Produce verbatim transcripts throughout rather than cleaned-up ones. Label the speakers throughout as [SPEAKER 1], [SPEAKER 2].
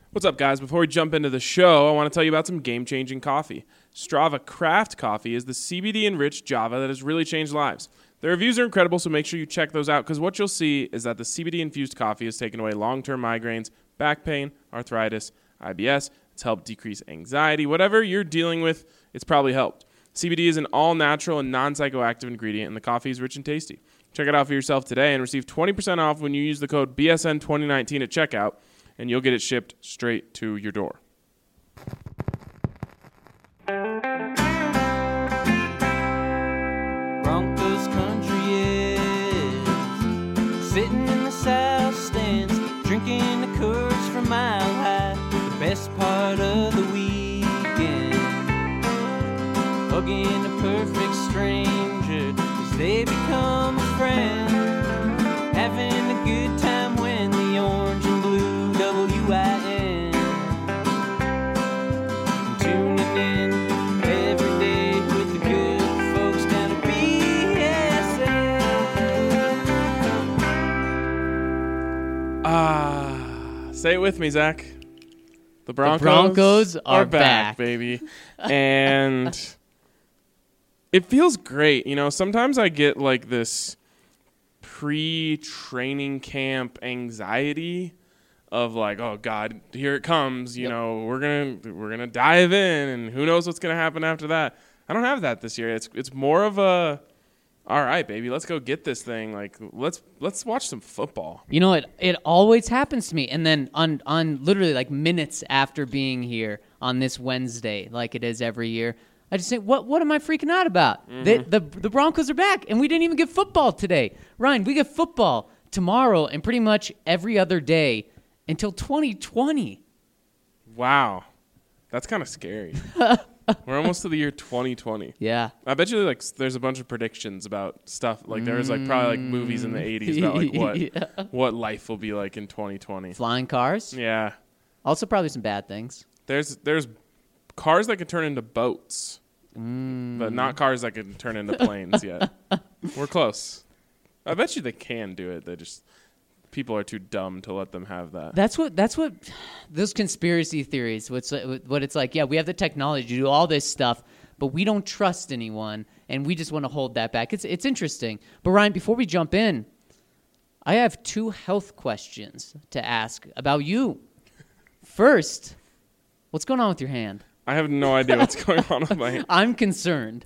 [SPEAKER 1] What's up, guys? Before we jump into the show, I want to tell you about some game-changing coffee. Strava Craft Coffee is the C B D-enriched Java that has really changed lives. The reviews are incredible, so make sure you check those out, because what you'll see is that the C B D-infused coffee has taken away long-term migraines, back pain, arthritis, I B S. It's helped decrease anxiety. Whatever you're dealing with, it's probably helped. C B D is an all-natural and non-psychoactive ingredient, and the coffee is rich and tasty. Check it out for yourself today and receive twenty percent off when you use the code B S N twenty nineteen at checkout, and you'll get it shipped straight to your door.
[SPEAKER 2] Broncos country is sitting in the south stands, drinking the Coors from Mile High, the best part of the weekend, hugging a perfect stranger as they become a friend, having a good time when the orange and blue W I N, tuning in every day with the good folks down at B S N.
[SPEAKER 1] Ah, say it with me, Zach. The Broncos,
[SPEAKER 3] The Broncos are
[SPEAKER 1] back,
[SPEAKER 3] back.
[SPEAKER 1] baby. And it feels great. You know, sometimes I get like this pre-training camp anxiety of like, oh God, here it comes. You
[SPEAKER 3] Yep.
[SPEAKER 1] know, we're gonna we're gonna dive in, and who knows what's gonna happen after that. I don't have that this year. It's it's more of a, all right, baby, let's go get this thing. Like let's let's watch some football.
[SPEAKER 3] You know, it it always happens to me. And then on, on literally like minutes after being here on this Wednesday, like it is every year, I just think, what what am I freaking out about?
[SPEAKER 1] Mm-hmm.
[SPEAKER 3] They, the the Broncos are back, and we didn't even get football today. Ryan, we get football tomorrow and pretty much every other day until twenty twenty.
[SPEAKER 1] Wow, that's kind of scary. We're almost to the year twenty twenty.
[SPEAKER 3] Yeah.
[SPEAKER 1] I bet you like s- there's a bunch of predictions about stuff. Like there was like probably like movies in the eighties about like what
[SPEAKER 3] Yeah.
[SPEAKER 1] what life will be like in twenty twenty.
[SPEAKER 3] Flying cars.
[SPEAKER 1] Yeah,
[SPEAKER 3] Also probably some bad things.
[SPEAKER 1] there's there's cars that can turn into boats, but not cars that can turn into planes yet. We're close. I bet you they can do it. They just people are too dumb to let them have that.
[SPEAKER 3] That's what that's what those conspiracy theories. What's what it's like? Yeah, we have the technology to do all this stuff, but we don't trust anyone, and we just want to hold that back. It's it's interesting. But Ryan, before we jump in, I have two health questions to ask about you. First, what's going on with your hand?
[SPEAKER 1] I have no idea what's going on with my hand.
[SPEAKER 3] I'm concerned.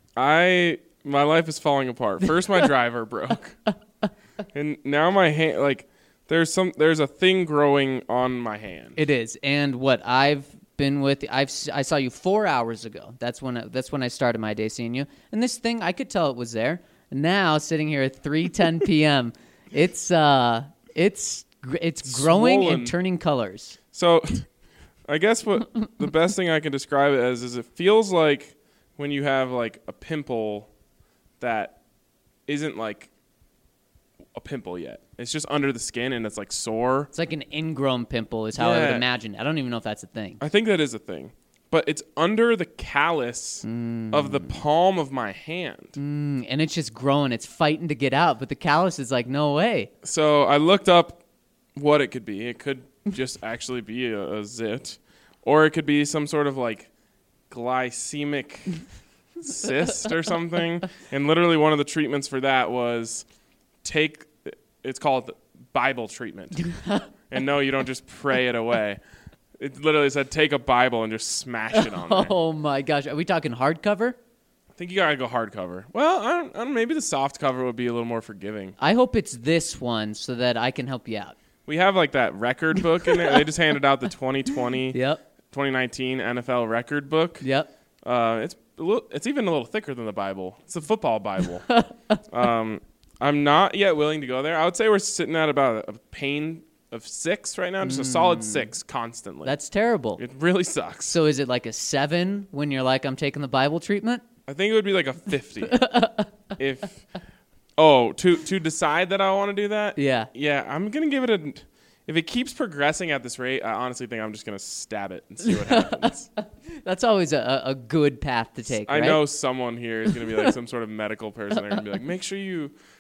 [SPEAKER 1] I my life is falling apart. First, my driver broke, and now my hand. Like, there's some there's a thing growing on my hand.
[SPEAKER 3] It is, and what I've been with, I've s- I saw you four hours ago. That's when I, that's when I started my day seeing you. And this thing, I could tell it was there. Now, sitting here at three ten p.m., it's uh, it's gr- it's growing
[SPEAKER 1] Swollen.
[SPEAKER 3] and turning colors.
[SPEAKER 1] So, I guess what the best thing I can describe it as is it feels like when you have like a pimple that isn't like a pimple yet. It's just under the skin and it's like sore.
[SPEAKER 3] It's like an ingrown pimple, is how I would
[SPEAKER 1] Yeah.
[SPEAKER 3] imagine. I don't even know if that's a thing.
[SPEAKER 1] I think that is a thing. But it's under the callus of the palm of my hand.
[SPEAKER 3] Mm, and it's just growing. It's fighting to get out, but the callus is like, no way.
[SPEAKER 1] So I looked up what it could be. It could just actually be a, a zit, or it could be some sort of like glycemic cyst or something. And literally one of the treatments for that was take, it's called Bible treatment. And no, you don't just pray it away. It literally said take a Bible and just smash it on there.
[SPEAKER 3] Oh my gosh. Are we talking hardcover?
[SPEAKER 1] I think you gotta go hardcover. Well, I don't, I don't, maybe the soft cover would be a little more forgiving.
[SPEAKER 3] I hope it's this one so that I can help you out.
[SPEAKER 1] We have like that record book in there. They just handed out the twenty twenty,
[SPEAKER 3] Yep.
[SPEAKER 1] twenty nineteen N F L record book.
[SPEAKER 3] Yep.
[SPEAKER 1] Uh, it's a little, it's even a little thicker than the Bible. It's a football Bible. um, I'm not yet willing to go there. I would say we're sitting at about a, a pain of six right now, just a solid six constantly.
[SPEAKER 3] That's terrible.
[SPEAKER 1] It really sucks.
[SPEAKER 3] So is it like a seven when you're like, I'm taking the Bible treatment?
[SPEAKER 1] I think it would be like a fifty. if oh to to decide that I want to do that.
[SPEAKER 3] Yeah.
[SPEAKER 1] Yeah, I'm gonna give it a. If it keeps progressing at this rate, I honestly think I'm just gonna stab it and see what happens.
[SPEAKER 3] That's always a, a good path to take,
[SPEAKER 1] I
[SPEAKER 3] right?
[SPEAKER 1] know someone here is gonna be like some sort of medical person. They're gonna be like, make sure you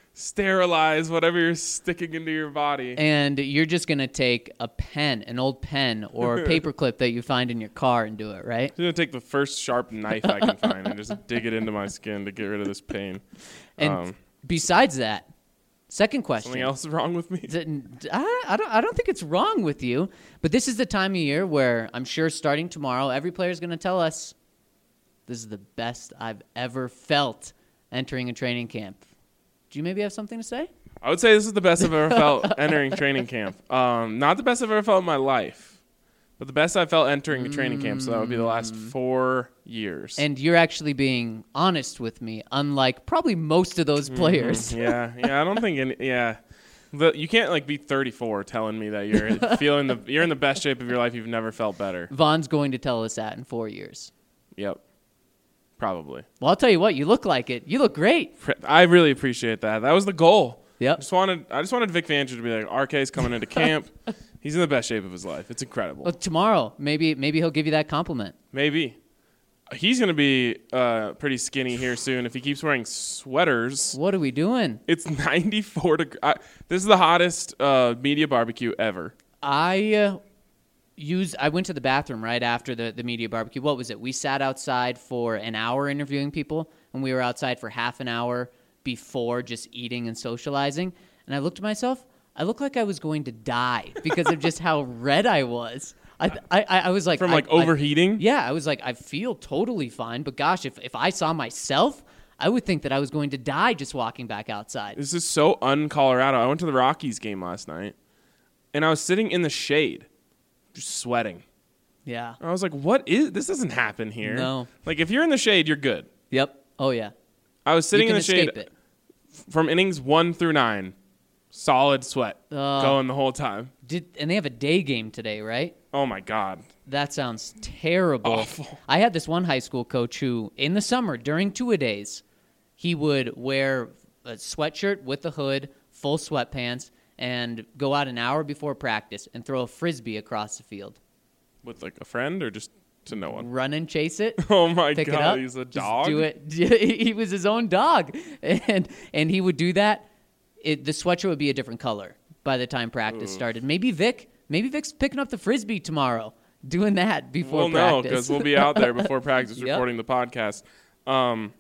[SPEAKER 1] sterilize whatever you're sticking into your body.
[SPEAKER 3] And you're just going to take a pen, an old pen or a paperclip that you find in your car and do it, right?
[SPEAKER 1] I'm going to take the first sharp knife I can find and just dig it into my skin to get rid of this pain.
[SPEAKER 3] And
[SPEAKER 1] Um,
[SPEAKER 3] besides that, second question.
[SPEAKER 1] Something else is wrong with me?
[SPEAKER 3] Is it- I, I don't. I don't think it's wrong with you, but this is the time of year where I'm sure starting tomorrow, every player is going to tell us, "This is the best I've ever felt entering a training camp." Do you maybe have something to say?
[SPEAKER 1] I would say this is the best I've ever felt entering training camp. Um, not the best I've ever felt in my life, but the best I felt entering a training camp. So that would be the last four years.
[SPEAKER 3] And you're actually being honest with me, unlike probably most of those players.
[SPEAKER 1] yeah, yeah. I don't think any. Yeah, the, you can't like be thirty-four telling me that you're feeling the you're in the best shape of your life. You've never felt better.
[SPEAKER 3] Vaughn's going to tell us that in four years.
[SPEAKER 1] Yep, probably.
[SPEAKER 3] Well, I'll tell you what, you look like it. You look great.
[SPEAKER 1] I really appreciate that. That was the goal. I
[SPEAKER 3] Yep.
[SPEAKER 1] just wanted I just wanted Vic Fangio to be like, R K's coming into camp. He's in the best shape of his life. It's incredible.
[SPEAKER 3] Well, tomorrow, maybe maybe he'll give you that compliment.
[SPEAKER 1] Maybe. He's going to be uh, pretty skinny here soon if he keeps wearing sweaters.
[SPEAKER 3] What are we doing?
[SPEAKER 1] It's ninety-four degrees. This is the hottest uh, media barbecue ever.
[SPEAKER 3] I uh, used. I went to the bathroom right after the, the media barbecue. What was it? We sat outside for an hour interviewing people, and we were outside for half an hour before just eating and socializing. And I looked at myself. I looked like I was going to die because of just how red I was. I I, I was like
[SPEAKER 1] From
[SPEAKER 3] I-
[SPEAKER 1] like
[SPEAKER 3] I-
[SPEAKER 1] overheating?
[SPEAKER 3] yeah, I was like, I feel totally fine, but gosh, if if I saw myself, I would think that I was going to die just walking back outside.
[SPEAKER 1] This is so un-Colorado. I went to the Rockies game last night, and I was sitting in the shade, just sweating.
[SPEAKER 3] Yeah.
[SPEAKER 1] I was like, what is – this doesn't happen here.
[SPEAKER 3] No.
[SPEAKER 1] Like, if you're in the shade, you're good.
[SPEAKER 3] Yep. Oh yeah.
[SPEAKER 1] I was sitting
[SPEAKER 3] you
[SPEAKER 1] in
[SPEAKER 3] can
[SPEAKER 1] the shade
[SPEAKER 3] escape it.
[SPEAKER 1] from innings one through nine, solid sweat
[SPEAKER 3] Uh,
[SPEAKER 1] going the whole time.
[SPEAKER 3] Did and they have a day game today, right?
[SPEAKER 1] Oh, my God.
[SPEAKER 3] That sounds terrible.
[SPEAKER 1] Awful.
[SPEAKER 3] I had this one high school coach who, in the summer, during two-a-days, he would wear a sweatshirt with a hood, full sweatpants, and go out an hour before practice and throw a Frisbee across the field.
[SPEAKER 1] With, like, a friend or just to no one?
[SPEAKER 3] Run and chase it.
[SPEAKER 1] Oh, my
[SPEAKER 3] Pick it
[SPEAKER 1] God.
[SPEAKER 3] up.
[SPEAKER 1] He's a
[SPEAKER 3] just
[SPEAKER 1] dog?
[SPEAKER 3] do it. He was his own dog. And and he would do that. It, the sweatshirt would be a different color by the time practice started. Maybe Vic, maybe Vic's picking up the Frisbee tomorrow, doing that before
[SPEAKER 1] We'll
[SPEAKER 3] practice.
[SPEAKER 1] know because we'll be out there before practice
[SPEAKER 3] Yep.
[SPEAKER 1] recording the podcast. Um,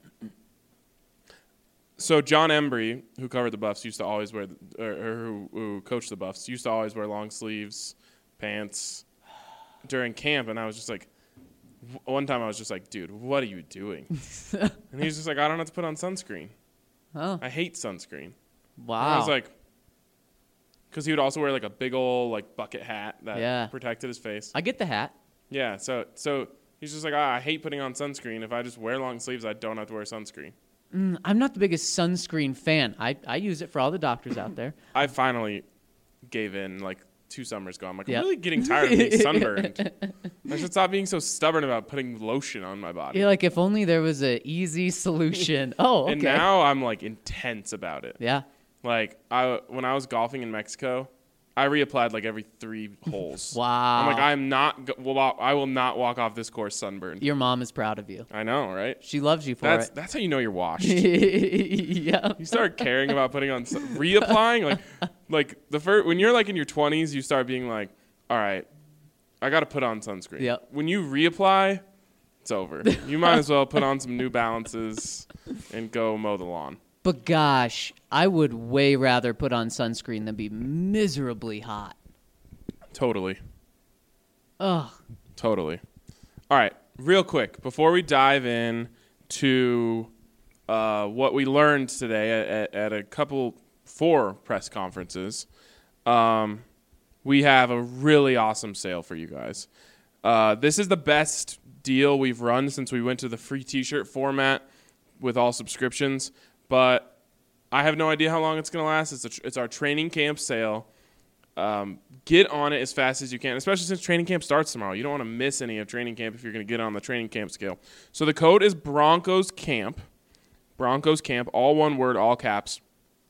[SPEAKER 1] so John Embry, who covered the Buffs, used to always wear, the, or, or who, who coached the Buffs, used to always wear long sleeves, pants during camp, and I was just like, w- one time I was just like, dude, what are you doing? And he's just like, I don't have to put on sunscreen.
[SPEAKER 3] Oh,
[SPEAKER 1] I hate sunscreen.
[SPEAKER 3] wow.
[SPEAKER 1] And I was like, because he would also wear like a big old like bucket hat that
[SPEAKER 3] Yeah.
[SPEAKER 1] protected his face.
[SPEAKER 3] I get the hat.
[SPEAKER 1] Yeah, so so he's just like, ah, I hate putting on sunscreen. If I just wear long sleeves, I don't have to wear sunscreen.
[SPEAKER 3] Mm, I'm not the biggest sunscreen fan. I, I use it for all the doctors out there.
[SPEAKER 1] I finally gave in like two summers ago. I'm like,
[SPEAKER 3] Yep.
[SPEAKER 1] I'm really getting tired of being sunburned. I should stop being so stubborn about putting lotion on my body.
[SPEAKER 3] You're like, if only there was a easy solution. Oh, okay.
[SPEAKER 1] And now I'm like intense about it.
[SPEAKER 3] yeah.
[SPEAKER 1] Like I when I was golfing in Mexico, I reapplied like every three holes.
[SPEAKER 3] Wow.
[SPEAKER 1] I'm like, I'm not. Go- well, I will not walk off this course sunburned.
[SPEAKER 3] Your mom is proud of you.
[SPEAKER 1] I know, right?
[SPEAKER 3] She loves you for
[SPEAKER 1] That's
[SPEAKER 3] it.
[SPEAKER 1] that's how you know you're washed.
[SPEAKER 3] Yeah.
[SPEAKER 1] You start caring about putting on sun- reapplying like like the first when you're like in your twenties, you start being like, all right, I got to put on sunscreen.
[SPEAKER 3] Yep.
[SPEAKER 1] When you reapply, it's over. You might as well put on some New Balances and go mow the lawn.
[SPEAKER 3] But gosh, I would way rather put on sunscreen than be miserably hot.
[SPEAKER 1] Totally.
[SPEAKER 3] Ugh.
[SPEAKER 1] Totally. All right, real quick before we dive in to uh, what we learned today at, at, at a couple four press conferences, um, we have a really awesome sale for you guys. Uh, this is the best deal we've run since we went to the free T-shirt format with all subscriptions, but I have no idea how long it's going to last. It's a tr- it's our training camp sale. Um, get on it as fast as you can, especially since training camp starts tomorrow. You don't want to miss any of training camp if you're going to get on the training camp scale. So the code is Broncos Camp. Broncos Camp, all one word, all caps.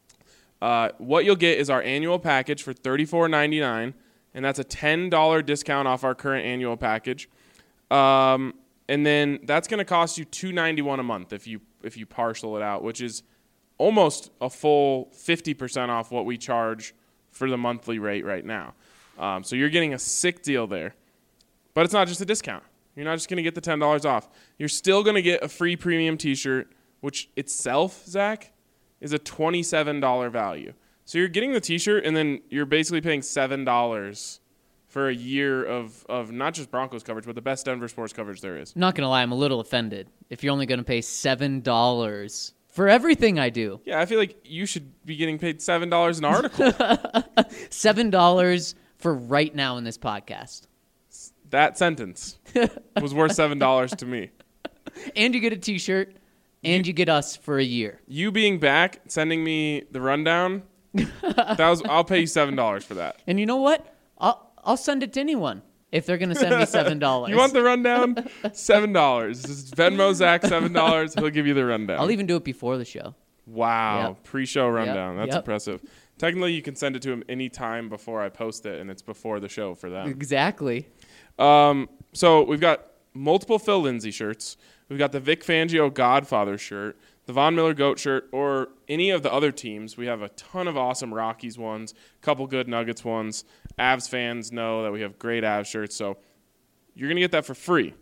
[SPEAKER 1] Uh, what you'll get is our annual package for thirty-four ninety-nine, and that's a ten dollars discount off our current annual package. Um, and then that's going to cost you two ninety-one a month if you if you parcel it out, which is almost a full fifty percent off what we charge for the monthly rate right now. Um, so you're getting a sick deal there. But it's not just a discount. You're not just going to get the ten dollars off. You're still going to get a free premium t-shirt, which itself, Zach, is a twenty-seven dollars value. So you're getting the t-shirt, and then you're basically paying seven dollars for a year of, of not just Broncos coverage, but the best Denver sports coverage there is.
[SPEAKER 3] I'm not going to lie, I'm a little offended if you're only going to pay seven dollars for everything I do.
[SPEAKER 1] Yeah, I feel like you should be getting paid seven dollars an article.
[SPEAKER 3] seven dollars for right now in this podcast.
[SPEAKER 1] That sentence was worth seven dollars to me.
[SPEAKER 3] And you get a t-shirt, and you, you get us for a year.
[SPEAKER 1] You being back, sending me the rundown, that was I'll pay you seven dollars for that.
[SPEAKER 3] And you know what? I'll I'll send it to anyone if they're going to send me seven dollars.
[SPEAKER 1] You want the rundown? seven dollars. Just Venmo Zach seven dollars. He'll give you the rundown.
[SPEAKER 3] I'll even do it before the show.
[SPEAKER 1] Wow.
[SPEAKER 3] Yep.
[SPEAKER 1] Pre-show rundown.
[SPEAKER 3] Yep.
[SPEAKER 1] That's
[SPEAKER 3] Yep.
[SPEAKER 1] impressive. Technically, you can send it to him any time before I post it, and it's before the show for them.
[SPEAKER 3] Exactly.
[SPEAKER 1] Um, so we've got multiple Phil Lindsay shirts. We've got the Vic Fangio Godfather shirt, the Von Miller Goat shirt, or any of the other teams. We have a ton of awesome Rockies ones, a couple good Nuggets ones. Avs fans know that we have great Avs shirts, so you're going to get that for free.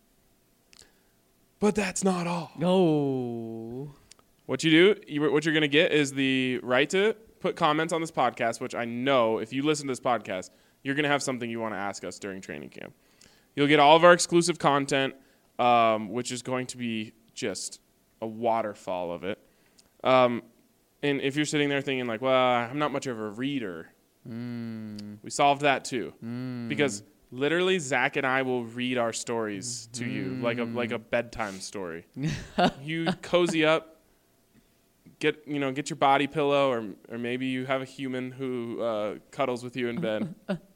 [SPEAKER 1] But that's not all.
[SPEAKER 3] No.
[SPEAKER 1] What you do, you, what you're going to get is the right to put comments on this podcast, which I know if you listen to this podcast, you're going to have something you want to ask us during training camp. You'll get all of our exclusive content, um, which is going to be just a waterfall of it. Um, and if you're sitting there thinking like, well, I'm not much of a reader, mm. we solved that too. Mm. Because literally Zach and I will read our stories to mm. you like a like a bedtime story. You cozy up. Get you know get your body pillow, or or maybe you have a human who uh, cuddles with you in bed,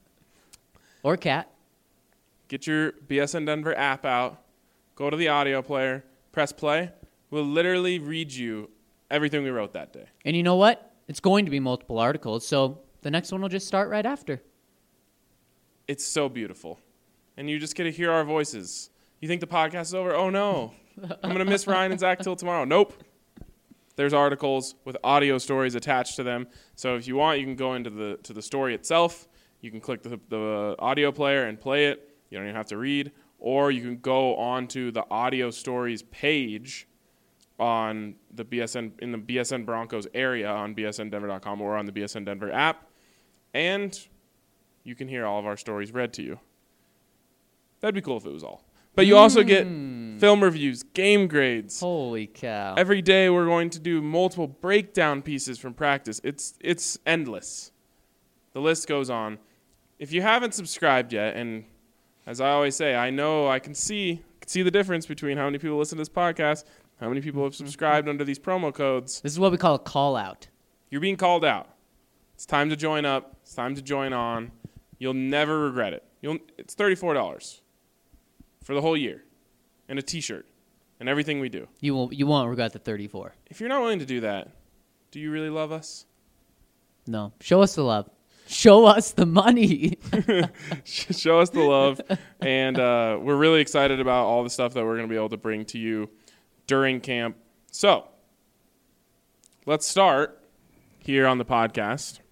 [SPEAKER 3] or cat.
[SPEAKER 1] Get your B S N Denver app out, go to the audio player, press play. We'll literally read you everything we wrote that day.
[SPEAKER 3] And you know what? It's going to be multiple articles, so the next one will just start right after.
[SPEAKER 1] It's so beautiful, and you just get to hear our voices. You think the podcast is over? Oh no, I'm gonna miss Ryan and Zach till tomorrow. Nope. There's articles with audio stories attached to them. So if you want, you can go into the to the story itself. You can click the, the audio player and play it. You don't even have to read. Or you can go onto the audio stories page on the B S N in the B S N Broncos area on B S N Denver dot com or on the B S N Denver app, and you can hear all of our stories read to you. That'd be cool if it was all. But you also get film reviews, game grades.
[SPEAKER 3] Holy cow.
[SPEAKER 1] Every day we're going to do multiple breakdown pieces from practice. It's it's endless. The list goes on. If you haven't subscribed yet, and as I always say, I know I can see can see the difference between how many people listen to this podcast, how many people have subscribed under these promo codes.
[SPEAKER 3] This is what we call a call out.
[SPEAKER 1] You're being called out. It's time to join up. It's time to join on. You'll never regret it. You'll it's thirty-four dollars. For the whole year, and a T-shirt, and everything we do.
[SPEAKER 3] You won't. You won't regret the thirty-four.
[SPEAKER 1] If you're not willing to do that, do you really love us?
[SPEAKER 3] No. Show us the love. Show us the money.
[SPEAKER 1] Show us the love, and uh, we're really excited about all the stuff that we're going to be able to bring to you during camp. So, let's start here on the podcast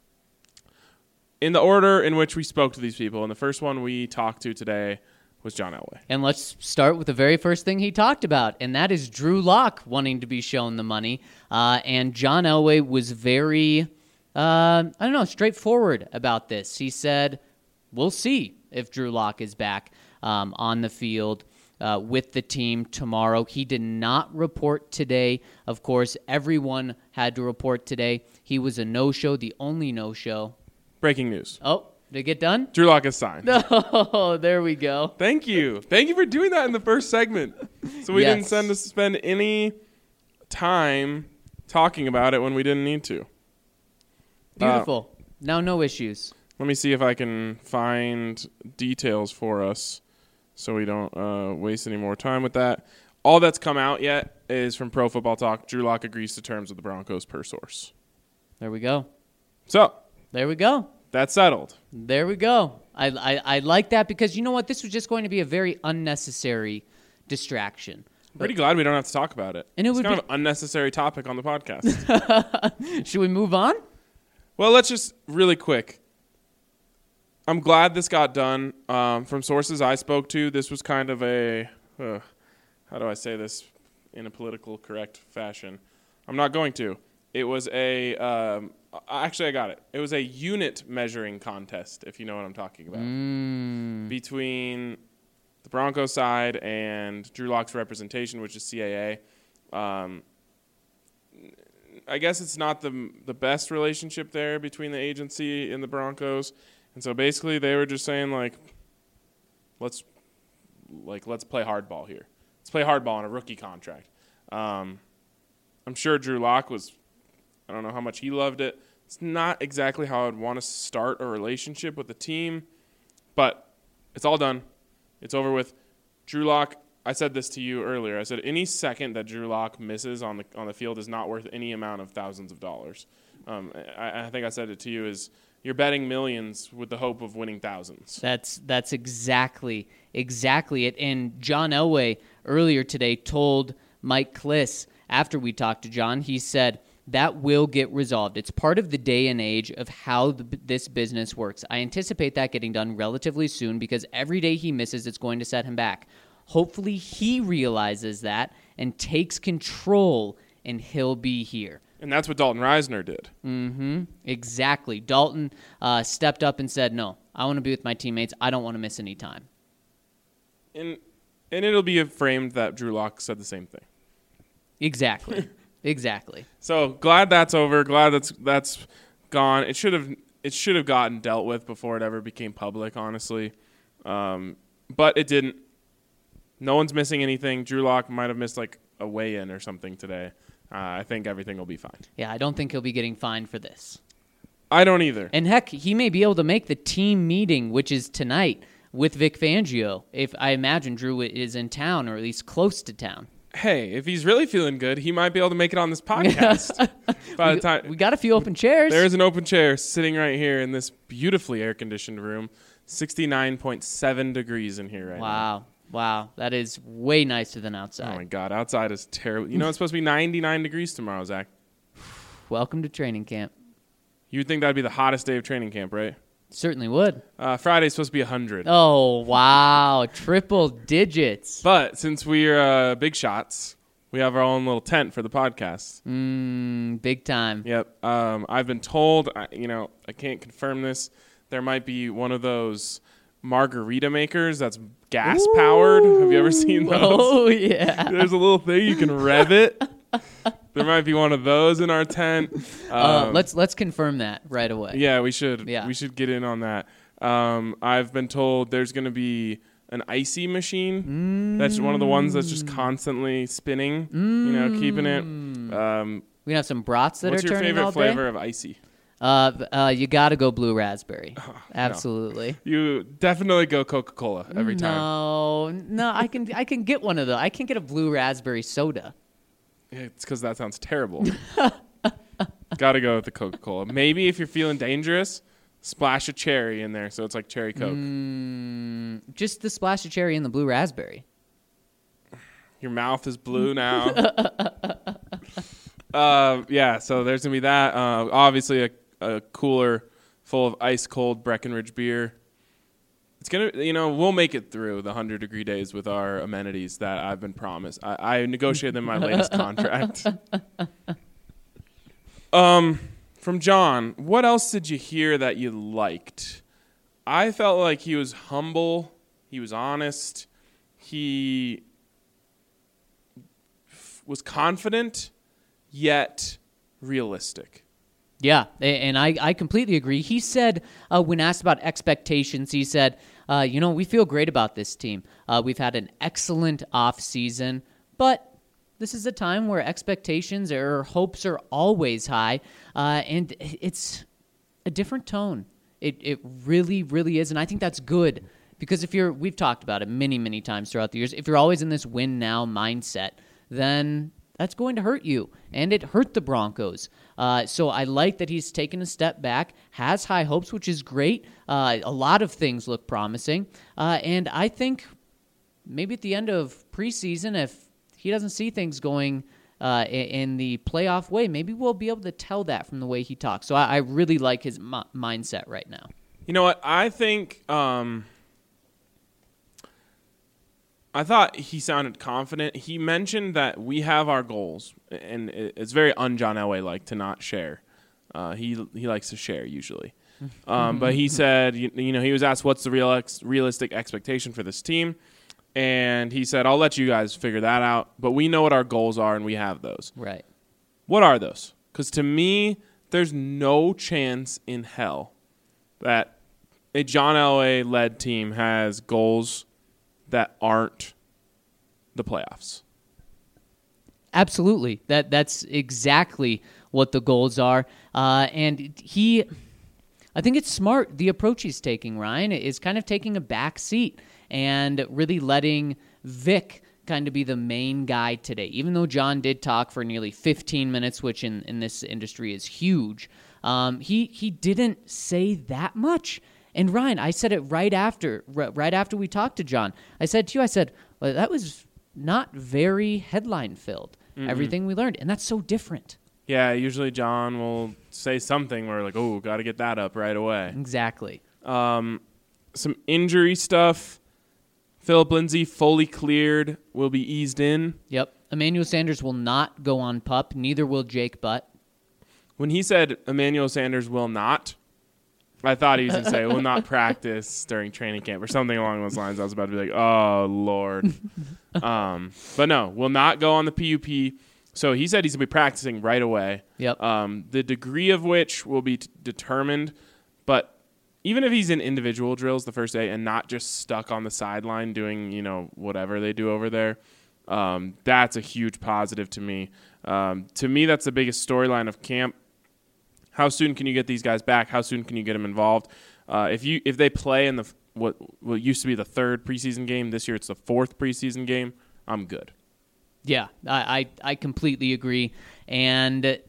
[SPEAKER 1] in the order in which we spoke to these people. And the first one we talked to today was John Elway.
[SPEAKER 3] And let's start with the very first thing he talked about, and that is Drew Lock wanting to be shown the money. Uh, and John Elway was very, uh, I don't know, straightforward about this. He said, we'll see if Drew Lock is back um, on the field uh, with the team tomorrow. He did not report today. Of course, everyone had to report today. He was a no-show, the only no-show.
[SPEAKER 1] Breaking news.
[SPEAKER 3] Oh. Did it get done?
[SPEAKER 1] Drew Lock is signed.
[SPEAKER 3] Oh, there we go.
[SPEAKER 1] Thank you. Thank you for doing that in the first segment. So we
[SPEAKER 3] Yes.
[SPEAKER 1] didn't send us to spend any time talking about it when we didn't need to.
[SPEAKER 3] Beautiful. Uh, now no issues.
[SPEAKER 1] Let me see if I can find details for us so we don't uh, waste any more time with that. All that's come out yet is from Pro Football Talk. Drew Lock agrees to terms with the Broncos per source.
[SPEAKER 3] There we go.
[SPEAKER 1] So.
[SPEAKER 3] There we go.
[SPEAKER 1] That's settled.
[SPEAKER 3] There we go. I, I I like that because you know what? This was just going to be a very unnecessary distraction.
[SPEAKER 1] Pretty glad we don't have to talk about it.
[SPEAKER 3] And it
[SPEAKER 1] it's
[SPEAKER 3] would
[SPEAKER 1] kind
[SPEAKER 3] be-
[SPEAKER 1] of an unnecessary topic on the podcast.
[SPEAKER 3] Should we move on?
[SPEAKER 1] Well, let's just really quick. I'm glad this got done. Um, from sources I spoke to, this was kind of a, uh, how do I say this in a political correct fashion? I'm not going to. It was a, um, actually I got it. It was a unit measuring contest, if you know what I'm talking about,
[SPEAKER 3] Mm.
[SPEAKER 1] between the Broncos side and Drew Lock's representation, which is C A A. Um, I guess it's not the the best relationship there between the agency and the Broncos, and so basically they were just saying like, let's like let's play hardball here. Let's play hardball on a rookie contract. Um, I'm sure Drew Lock was, I don't know how much he loved it. It's not exactly how I'd want to start a relationship with the team, but it's all done. It's over with. Drew Lock, I said this to you earlier. I said any second that Drew Lock misses on the on the field is not worth any amount of thousands of dollars. Um, I, I think I said it to you is you're betting millions with the hope of winning thousands.
[SPEAKER 3] That's that's exactly exactly it. And John Elway earlier today told Mike Kliss after we talked to John, he said that will get resolved. It's part of the day and age of how the, this business works. I anticipate that getting done relatively soon because every day he misses, it's going to set him back. Hopefully he realizes that and takes control, and he'll be here.
[SPEAKER 1] And that's what Dalton Reisner did.
[SPEAKER 3] Mm-hmm. Exactly. Dalton uh, stepped up and said, no, I want to be with my teammates. I don't want to miss any time.
[SPEAKER 1] And and it'll be framed that Drew Lock said the same thing.
[SPEAKER 3] Exactly. Exactly.
[SPEAKER 1] So glad that's over. Glad that's that's gone. It should have it should have gotten dealt with before it ever became public, honestly. Um, but it didn't. No one's missing anything. Drew Lock might have missed like a weigh-in or something today. Uh, I think everything will be fine.
[SPEAKER 3] Yeah, I don't think he'll be getting fined for this.
[SPEAKER 1] I don't either.
[SPEAKER 3] And heck, he may be able to make the team meeting, which is tonight, with Vic Fangio, if I imagine Drew is in town or at least close to town.
[SPEAKER 1] Hey, if he's really feeling good, he might be able to make it on this podcast. By
[SPEAKER 3] we,
[SPEAKER 1] the time
[SPEAKER 3] we got a few open chairs.
[SPEAKER 1] There is an open chair sitting right here in this beautifully air-conditioned room. sixty-nine point seven degrees in here right now.
[SPEAKER 3] Wow. Wow. That is way nicer than
[SPEAKER 1] Oh,
[SPEAKER 3] outside.
[SPEAKER 1] my God. Outside is terrible. You know, it's supposed to be ninety-nine degrees tomorrow, Zach.
[SPEAKER 3] Welcome to training camp.
[SPEAKER 1] You would think that would be the hottest day of training camp, right?
[SPEAKER 3] Certainly would.
[SPEAKER 1] Uh, Friday's supposed to be one hundred.
[SPEAKER 3] Oh, wow. Triple digits.
[SPEAKER 1] But since we're uh, big shots, we have our own little tent for the podcast.
[SPEAKER 3] Mmm, big time.
[SPEAKER 1] Yep. Um, I've been told, I, you know, I can't confirm this, there might be one of those margarita makers that's gas powered. Have you ever seen those?
[SPEAKER 3] Oh, yeah.
[SPEAKER 1] There's a little thing you can rev it. There might be one of those in our tent. Um,
[SPEAKER 3] Uh, let's let's confirm that right away.
[SPEAKER 1] Yeah, we should.
[SPEAKER 3] Yeah.
[SPEAKER 1] We should get in on that. Um, I've been told there's going to be an icy machine. Mm. That's one of the ones that's just constantly spinning. Mm. You know, keeping it. Um,
[SPEAKER 3] We have some brats that
[SPEAKER 1] what's
[SPEAKER 3] are
[SPEAKER 1] your
[SPEAKER 3] turning
[SPEAKER 1] favorite
[SPEAKER 3] all day.
[SPEAKER 1] flavor of icy?
[SPEAKER 3] Uh, uh, you got to go blue raspberry.
[SPEAKER 1] Oh,
[SPEAKER 3] Absolutely.
[SPEAKER 1] You definitely go Coca-Cola every time.
[SPEAKER 3] No, no, I can I can get one of those. I can get a blue raspberry soda.
[SPEAKER 1] Yeah, it's because that sounds terrible. Got to go with the Coca-Cola. Maybe if you're feeling dangerous, splash a cherry in there so it's like cherry Coke.
[SPEAKER 3] Mm, just the splash of cherry and the blue raspberry.
[SPEAKER 1] Your mouth is blue now. uh, yeah, so there's going to be that. Uh, obviously, a, a cooler full of ice-cold Breckenridge beer. It's going to, you know, we'll make it through the one hundred degree days with our amenities that I've been promised. I, I negotiated in my latest contract. Um, from John, what else did you hear that you liked? I felt like he was humble. He was honest. He f- was confident, yet realistic.
[SPEAKER 3] Yeah, a- and I, I completely agree. He said, uh, when asked about expectations, he said, uh, you know, we feel great about this team. Uh, we've had an excellent off season, but this is a time where expectations or hopes are always high, uh, and it's a different tone. It it really, really is, and I think that's good because if you're, we've talked about it many, many times throughout the years, if you're always in this win now mindset, then that's going to hurt you, and it hurt the Broncos. Uh, so I like that he's taken a step back, has high hopes, which is great. Uh, a lot of things look promising, uh, and I think maybe at the end of preseason, if he doesn't see things going uh, in, in the playoff way. Maybe we'll be able to tell that from the way he talks. So I, I really like his m- mindset right now.
[SPEAKER 1] You know what? I think um, I thought he sounded confident. He mentioned that we have our goals, and it's very un-John Elway-like to not share. Uh, he he likes to share usually. Um, but he said, you, you know, he was asked what's the real ex- realistic expectation for this team, and he said, I'll let you guys figure that out, but we know what our goals are, and we have those.
[SPEAKER 3] Right.
[SPEAKER 1] What are those? Because to me, there's no chance in hell that a John Elway-led team has goals that aren't the playoffs.
[SPEAKER 3] Absolutely. That that's exactly what the goals are. Uh, and he, I think it's smart, the approach he's taking, Ryan, is kind of taking a back seat and really letting Vic kind of be the main guy today. Even though John did talk for nearly fifteen minutes, which in, in this industry is huge, um, he he didn't say that much. And Ryan, I said it right after, right after we talked to John. I said to you, I said, well, that was not very headline-filled, mm-hmm. everything we learned. And that's so different.
[SPEAKER 1] Yeah, usually John will say something where like, oh, got to get that up right away.
[SPEAKER 3] Exactly.
[SPEAKER 1] Um, some injury stuff. Philip Lindsay fully cleared, will be eased in.
[SPEAKER 3] Yep. Emmanuel Sanders will not go on P U P. Neither will Jake Butt.
[SPEAKER 1] When he said Emmanuel Sanders will not, I thought he was going to say will not practice during training camp or something along those lines. I was about to be like, oh, Lord. um, but no, will not go on the P U P. So he said he's going to be practicing right away.
[SPEAKER 3] Yep.
[SPEAKER 1] Um, the degree of which will be t- determined. But even if he's in individual drills the first day and not just stuck on the sideline doing, you know, whatever they do over there, um, that's a huge positive to me. Um, to me, that's the biggest storyline of camp. How soon can you get these guys back? How soon can you get them involved? Uh, if you if they play in the what what used to be the third preseason game, this year it's the fourth preseason game, I'm good.
[SPEAKER 3] Yeah, I, I, I completely agree. And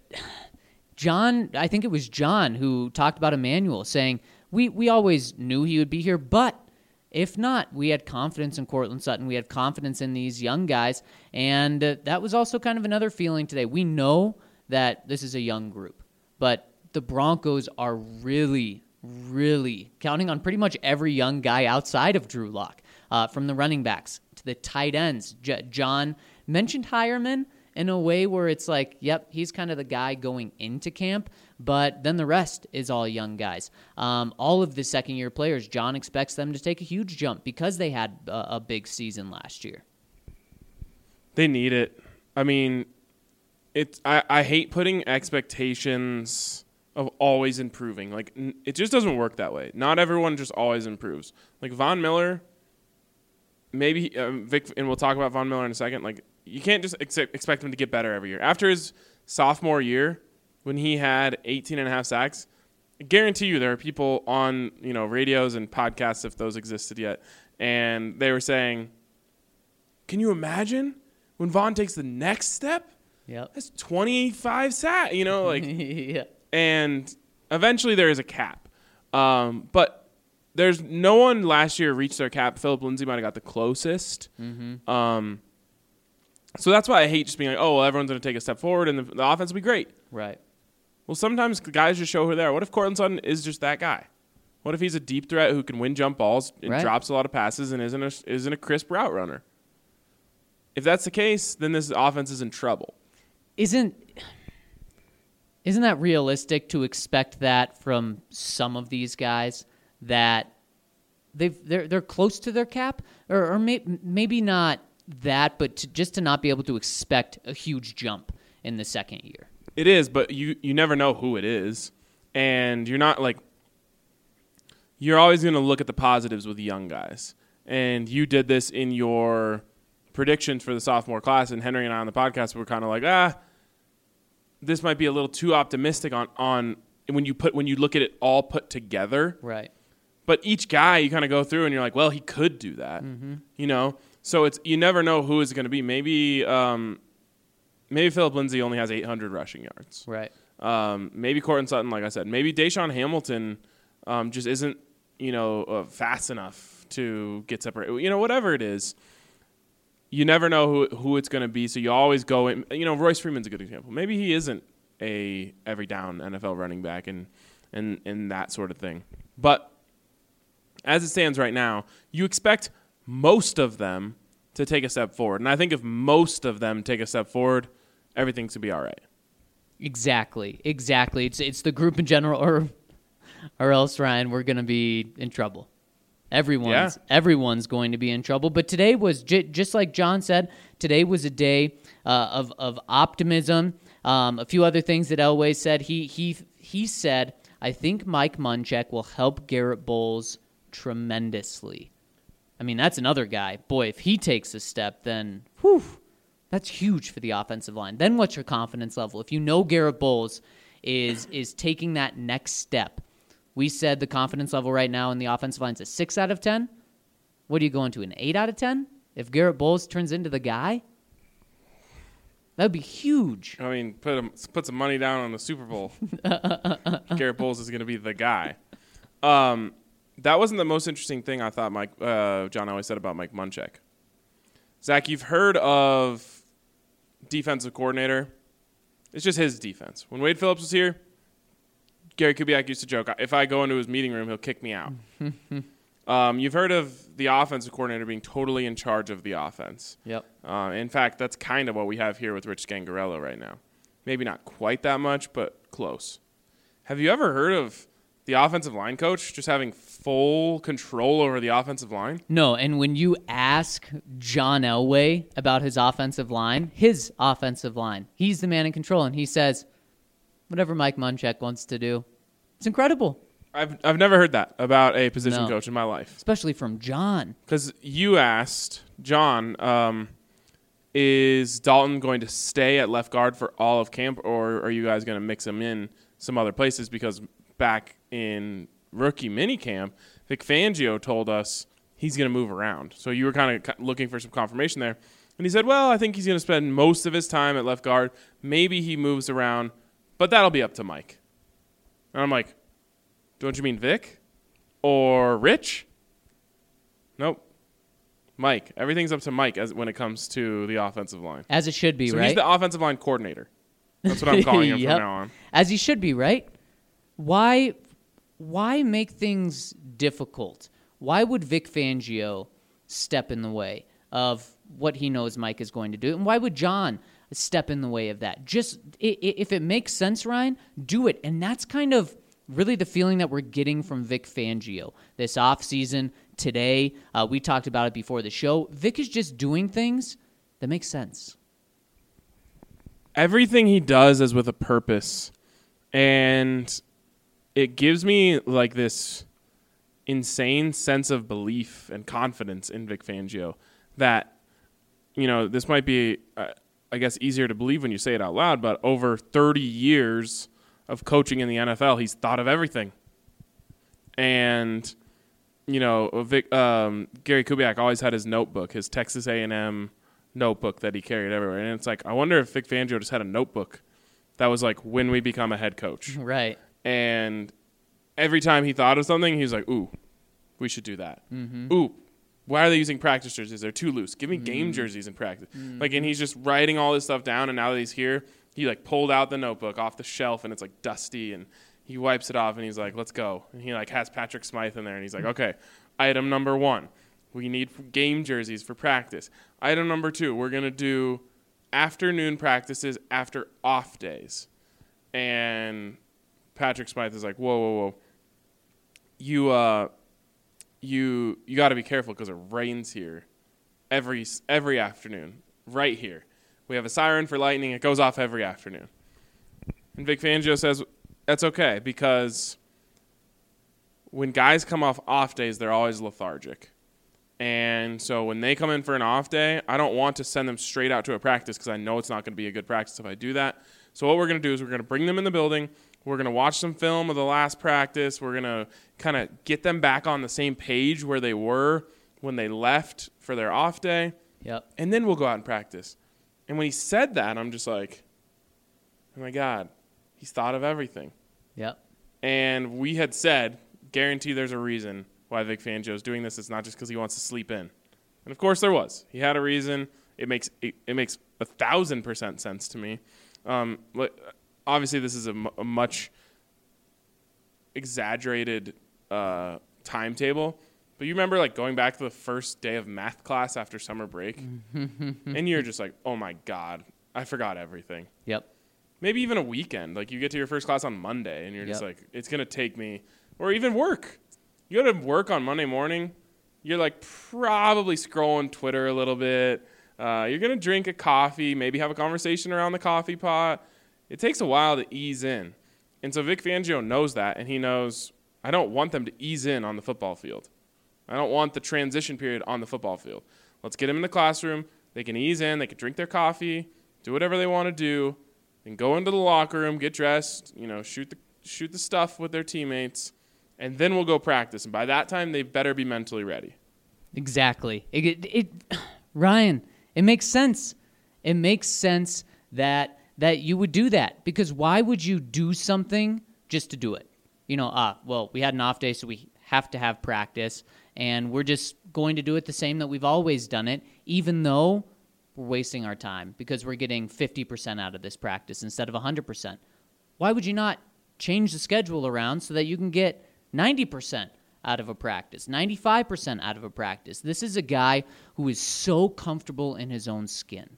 [SPEAKER 3] John, I think it was John who talked about Emmanuel, saying, we, we always knew he would be here, but if not, we had confidence in Courtland Sutton. We had confidence in these young guys. And uh, that was also kind of another feeling today. We know that this is a young group, but the Broncos are really, really counting on pretty much every young guy outside of Drew Lock, uh, from the running backs to the tight ends. J- John mentioned Hireman in a way where it's like, yep, he's kind of the guy going into camp, but then the rest is all young guys. Um, all of the second-year players, John expects them to take a huge jump because they had a, a big season last year.
[SPEAKER 1] They need it. I mean, it's I, I hate putting expectations of always improving. Like, n- it just doesn't work that way. Not everyone just always improves. Like, Von Miller, maybe um, Vic, and we'll talk about Von Miller in a second. Like, you can't just ex- expect him to get better every year. After his sophomore year, when he had eighteen and a half sacks, I guarantee you there are people on, you know, radios and podcasts, if those existed yet, and they were saying, can you imagine when Von takes the next step?
[SPEAKER 3] Yep.
[SPEAKER 1] That's twenty-five sacks, you know, like,
[SPEAKER 3] yeah.
[SPEAKER 1] And eventually there is a cap. Um, but there's no one last year reached their cap. Philip Lindsay might have got the closest.
[SPEAKER 3] Mm-hmm.
[SPEAKER 1] Um, so that's why I hate just being like, oh, well, everyone's going to take a step forward and the, the offense will be great.
[SPEAKER 3] Right.
[SPEAKER 1] Well, sometimes guys just show who they are. What if Courtland Sutton is just that guy? What if he's a deep threat who can win jump balls and
[SPEAKER 3] right.
[SPEAKER 1] drops a lot of passes and isn't a, isn't a crisp route runner? If that's the case, then this offense is in trouble.
[SPEAKER 3] Isn't isn't that realistic to expect that from some of these guys, that they've they're they're close to their cap, or, or may, maybe not that, but to, just to not be able to expect a huge jump in the second year?
[SPEAKER 1] It is, but you, you never know who it is. And you're not like – you're always going to look at the positives with young guys. And you did this in your predictions for the sophomore class, and Henry and I on the podcast were kind of like, ah, this might be a little too optimistic on, on when you put when you look at it all put together.
[SPEAKER 3] Right.
[SPEAKER 1] But each guy you kind of go through and you're like, well, he could do that.
[SPEAKER 3] Mm-hmm.
[SPEAKER 1] You know? So it's you never know who it's going to be. Maybe um, – Maybe Philip Lindsay only has eight hundred rushing yards.
[SPEAKER 3] Right.
[SPEAKER 1] Um, maybe Courtland Sutton, like I said. Maybe Deshaun Hamilton um, just isn't, you know, uh, fast enough to get separated. You know, whatever it is. you never know who who it's going to be, so you always go in. You know, Royce Freeman's a good example. Maybe he isn't a every down N F L running back and and and that sort of thing. But as it stands right now, you expect most of them to take a step forward. And I think if most of them take a step forward, everything's going to be all right.
[SPEAKER 3] Exactly. Exactly. It's it's the group in general, or or else, Ryan, we're going to be in trouble. Everyone's yeah. everyone's going to be in trouble. But today was, j- just like John said, today was a day uh, of of optimism. Um, a few other things that Elway said. He he he said, I think Mike Munchak will help Garrett Bowles tremendously. I mean, that's another guy. Boy, if he takes a step, then whew, that's huge for the offensive line. Then what's your confidence level? If you know Garrett Bowles is is taking that next step. We said the confidence level right now in the offensive line is a six out of ten. What are you going to, an eight out of ten? If Garrett Bowles turns into the guy? That would be huge.
[SPEAKER 1] I mean, put him, put some money down on the Super Bowl. Garrett Bowles is going to be the guy. Um, that wasn't the most interesting thing I thought Mike uh, John always said about Mike Munchak. Zach, you've heard of defensive coordinator. It's just his defense. When Wade Phillips was here, Gary Kubiak used to joke, if I go into his meeting room, he'll kick me out. um, you've heard of the offensive coordinator being totally in charge of the offense.
[SPEAKER 3] Yep.
[SPEAKER 1] Uh, in fact, that's kind of what we have here with Rich Scangarello right now. Maybe not quite that much, but close. Have you ever heard of the offensive line coach just having full control over the offensive line?
[SPEAKER 3] No, and when you ask John Elway about his offensive line, his offensive line, he's the man in control, and he says, whatever Mike Munchak wants to do. It's incredible.
[SPEAKER 1] I've I've never heard that about a position
[SPEAKER 3] No.
[SPEAKER 1] coach in my life.
[SPEAKER 3] Especially from John.
[SPEAKER 1] Because you asked, John, um, is Dalton going to stay at left guard for all of camp, or are you guys going to mix him in some other places? Because back in rookie minicamp, Vic Fangio told us he's going to move around. So you were kind of looking for some confirmation there. And he said, well, I think he's going to spend most of his time at left guard. Maybe he moves around, but that'll be up to Mike. And I'm like, don't you mean Vic? Or Rich? Nope. Mike. Everything's up to Mike as when it comes to the offensive line.
[SPEAKER 3] As it should be,
[SPEAKER 1] so
[SPEAKER 3] right?
[SPEAKER 1] He's the offensive line coordinator. That's what I'm calling him
[SPEAKER 3] Yep.
[SPEAKER 1] from now on.
[SPEAKER 3] As he should be, right? Why why make things difficult? Why would Vic Fangio step in the way of what he knows Mike is going to do? And why would John step in the way of that? Just i- i- if it makes sense, Ryan, do it. And that's kind of really the feeling that we're getting from Vic Fangio this offseason. Today, uh, we talked about it before the show. Vic is just doing things that make sense.
[SPEAKER 1] Everything he does is with a purpose. And it gives me like this insane sense of belief and confidence in Vic Fangio that, you know, this might be, uh, I guess, easier to believe when you say it out loud, but over thirty years of coaching in the N F L, he's thought of everything. And, you know, Vic, um, Gary Kubiak always had his notebook, his Texas A and M notebook that he carried everywhere. And it's like, I wonder if Vic Fangio just had a notebook that was like, when we become a head coach.
[SPEAKER 3] Right.
[SPEAKER 1] And every time he thought of something, he was like, ooh, we should do that.
[SPEAKER 3] Mm-hmm.
[SPEAKER 1] Ooh, why are they using practice jerseys? They're too loose. Give me
[SPEAKER 3] Mm-hmm.
[SPEAKER 1] game jerseys in practice. Mm-hmm. Like, and he's just writing all this stuff down, and now that he's here, he, like, pulled out the notebook off the shelf, and it's, like, dusty, and he wipes it off, and he's like, let's go. And he, like, has Patrick Smythe in there, and he's like, okay, item number one, we need game jerseys for practice. Item number two, we're going to do afternoon practices after off days. And Patrick Smythe is like, whoa, whoa, whoa. You, uh, you, you got to be careful because it rains here every every afternoon, right here. We have a siren for lightning. It goes off every afternoon. And Vic Fangio says that's okay because when guys come off off days, they're always lethargic. And so when they come in for an off day, I don't want to send them straight out to a practice because I know it's not going to be a good practice if I do that. So what we're going to do is we're going to bring them in the building. We're going to watch some film of the last practice. We're going to kind of get them back on the same page where they were when they left for their off day.
[SPEAKER 3] Yep.
[SPEAKER 1] And then we'll go out and practice. And when he said that, I'm just like, oh, my God, he's thought of everything.
[SPEAKER 3] Yep.
[SPEAKER 1] And we had said, guarantee there's a reason why Vic Fangio is doing this. It's not just because he wants to sleep in. And, of course, there was. He had a reason. it makes it, it makes a thousand percent sense to me. Um, obviously, this is a, m- a much exaggerated uh, timetable, but you remember like going back to the first day of math class after summer break, and you're just like, oh my god, I forgot everything.
[SPEAKER 3] Yep.
[SPEAKER 1] Maybe even a weekend, like you get to your first class on Monday, and you're
[SPEAKER 3] Yep.
[SPEAKER 1] just like, it's gonna take me, or even work. You go to work on Monday morning, you're like probably scrolling Twitter a little bit. Uh, you're going to drink a coffee, maybe have a conversation around the coffee pot. It takes a while to ease in. And so Vic Fangio knows that, and he knows I don't want them to ease in on the football field. I don't want the transition period on the football field. Let's get them in the classroom. They can ease in. They can drink their coffee, do whatever they want to do, and go into the locker room, get dressed, you know, shoot the shoot the stuff with their teammates, and then we'll go practice. And by that time, they better be mentally ready.
[SPEAKER 3] Exactly. It, it, it Ryan, it makes sense. It makes sense that that you would do that, because why would you do something just to do it? You know, ah, well, we had an off day, so we have to have practice, and we're just going to do it the same that we've always done it, even though we're wasting our time because we're getting fifty percent out of this practice instead of one hundred percent. Why would you not change the schedule around so that you can get ninety percent out of a practice, ninety-five percent out of a practice? This is a guy who is so comfortable in his own skin,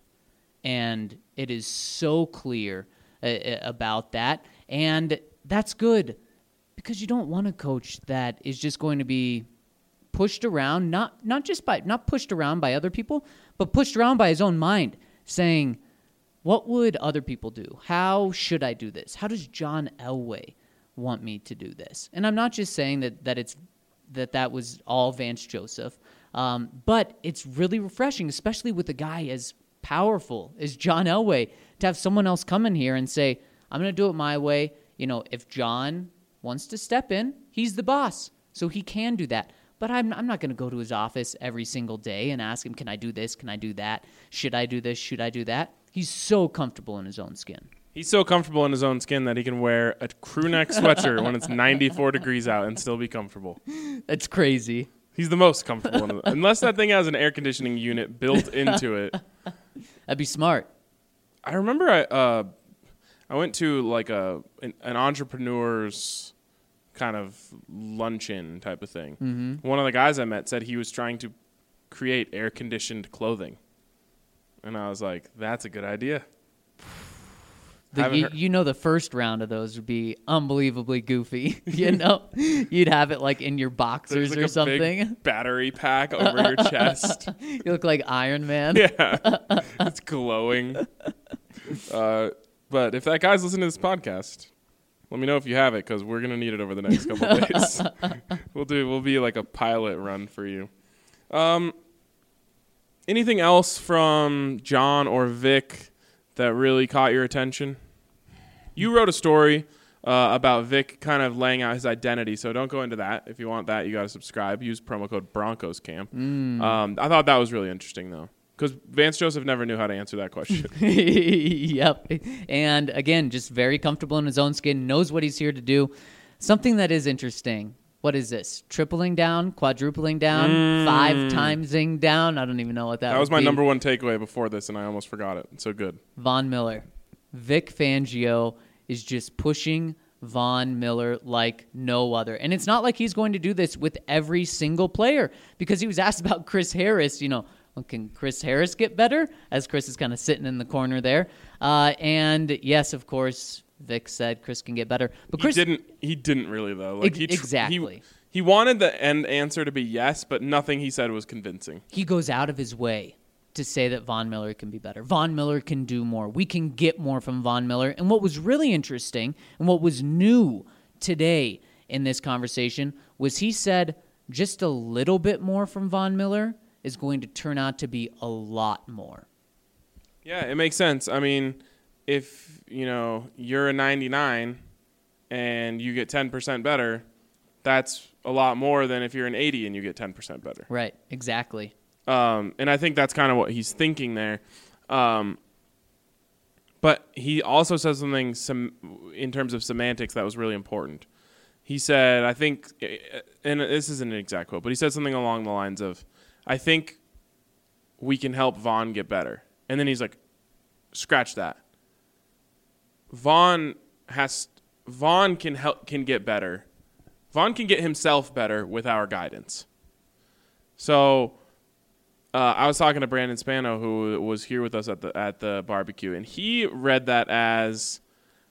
[SPEAKER 3] and it is so clear uh, about that, and that's good, because you don't want a coach that is just going to be pushed around, not not just by not pushed around by other people, but pushed around by his own mind, saying, what would other people do? How should I do this? How does John Elway want me to do this? And I'm not just saying that that it's that that was all Vance Joseph, um, but it's really refreshing, especially with a guy as powerful as John Elway, to have someone else come in here and say, I'm going to do it my way. You know, if John wants to step in, he's the boss, so he can do that. But I'm I'm not going to go to his office every single day and ask him, can I do this? Can I do that? Should I do this? Should I do that? He's so comfortable in his own skin.
[SPEAKER 1] He's so comfortable in his own skin that he can wear a crew neck sweatshirt when it's ninety-four degrees out and still be comfortable.
[SPEAKER 3] That's crazy.
[SPEAKER 1] He's the most comfortable. In the, unless that thing has an air conditioning unit built into it.
[SPEAKER 3] That'd be smart.
[SPEAKER 1] I remember I uh, I went to like a an, an entrepreneur's kind of luncheon type of thing. Mm-hmm. One of the guys I met said he was trying to create air-conditioned clothing. And I was like, that's a good idea.
[SPEAKER 3] The, you, you know, the first round of those would be unbelievably goofy. You know, you'd have it like in your boxers
[SPEAKER 1] like
[SPEAKER 3] or
[SPEAKER 1] a
[SPEAKER 3] something.
[SPEAKER 1] Big battery pack over your chest.
[SPEAKER 3] You look like Iron Man.
[SPEAKER 1] Yeah, it's glowing. Uh, but if that guy's listening to this podcast, let me know if you have it, because we're gonna need it over the next couple of days. We'll do. We'll be like a pilot run for you. Um, anything else from John or Vic that really caught your attention? You wrote a story uh, about Vic kind of laying out his identity, so don't go into that. If you want that, you got to subscribe. Use promo code Broncos Camp. Mm. Um, I thought that was really interesting, though, because Vance Joseph never knew how to answer that question.
[SPEAKER 3] Yep. And again, just very comfortable in his own skin, knows what he's here to do. Something that is interesting. What is this? Tripling down, quadrupling down, mm. five timesing down? I don't even know what that
[SPEAKER 1] That was my
[SPEAKER 3] be.
[SPEAKER 1] number one takeaway before this, and I almost forgot it. So good.
[SPEAKER 3] Von Miller. Vic Fangio is just pushing Von Miller like no other. And it's not like he's going to do this with every single player, because he was asked about Chris Harris, you know, well, can Chris Harris get better? As Chris is kind of sitting in the corner there. Uh, and yes, of course, Vic said Chris can get better. But Chris
[SPEAKER 1] he didn't he didn't really though. Like he tr-
[SPEAKER 3] exactly.
[SPEAKER 1] He, he wanted the end answer to be yes, but nothing he said was convincing.
[SPEAKER 3] He goes out of his way to say that Von Miller can be better. Von Miller can do more. We can get more from Von Miller. And what was really interesting and what was new today in this conversation was he said just a little bit more from Von Miller is going to turn out to be a lot more.
[SPEAKER 1] Yeah, it makes sense. I mean, if, you know, you're a ninety-nine and you get ten percent better, that's a lot more than if you're an eighty and you get ten percent better.
[SPEAKER 3] Right, exactly.
[SPEAKER 1] Um, and I think that's kind of what he's thinking there. Um, but he also said something some, in terms of semantics that was really important. He said, I think, and this isn't an exact quote, but he said something along the lines of, I think we can help Vaughn get better. And then he's like, scratch that. Vaughn has Vaughn can help can get better. Vaughn can get himself better with our guidance. So uh, I was talking to Brandon Spano, who was here with us at the at the barbecue, and he read that as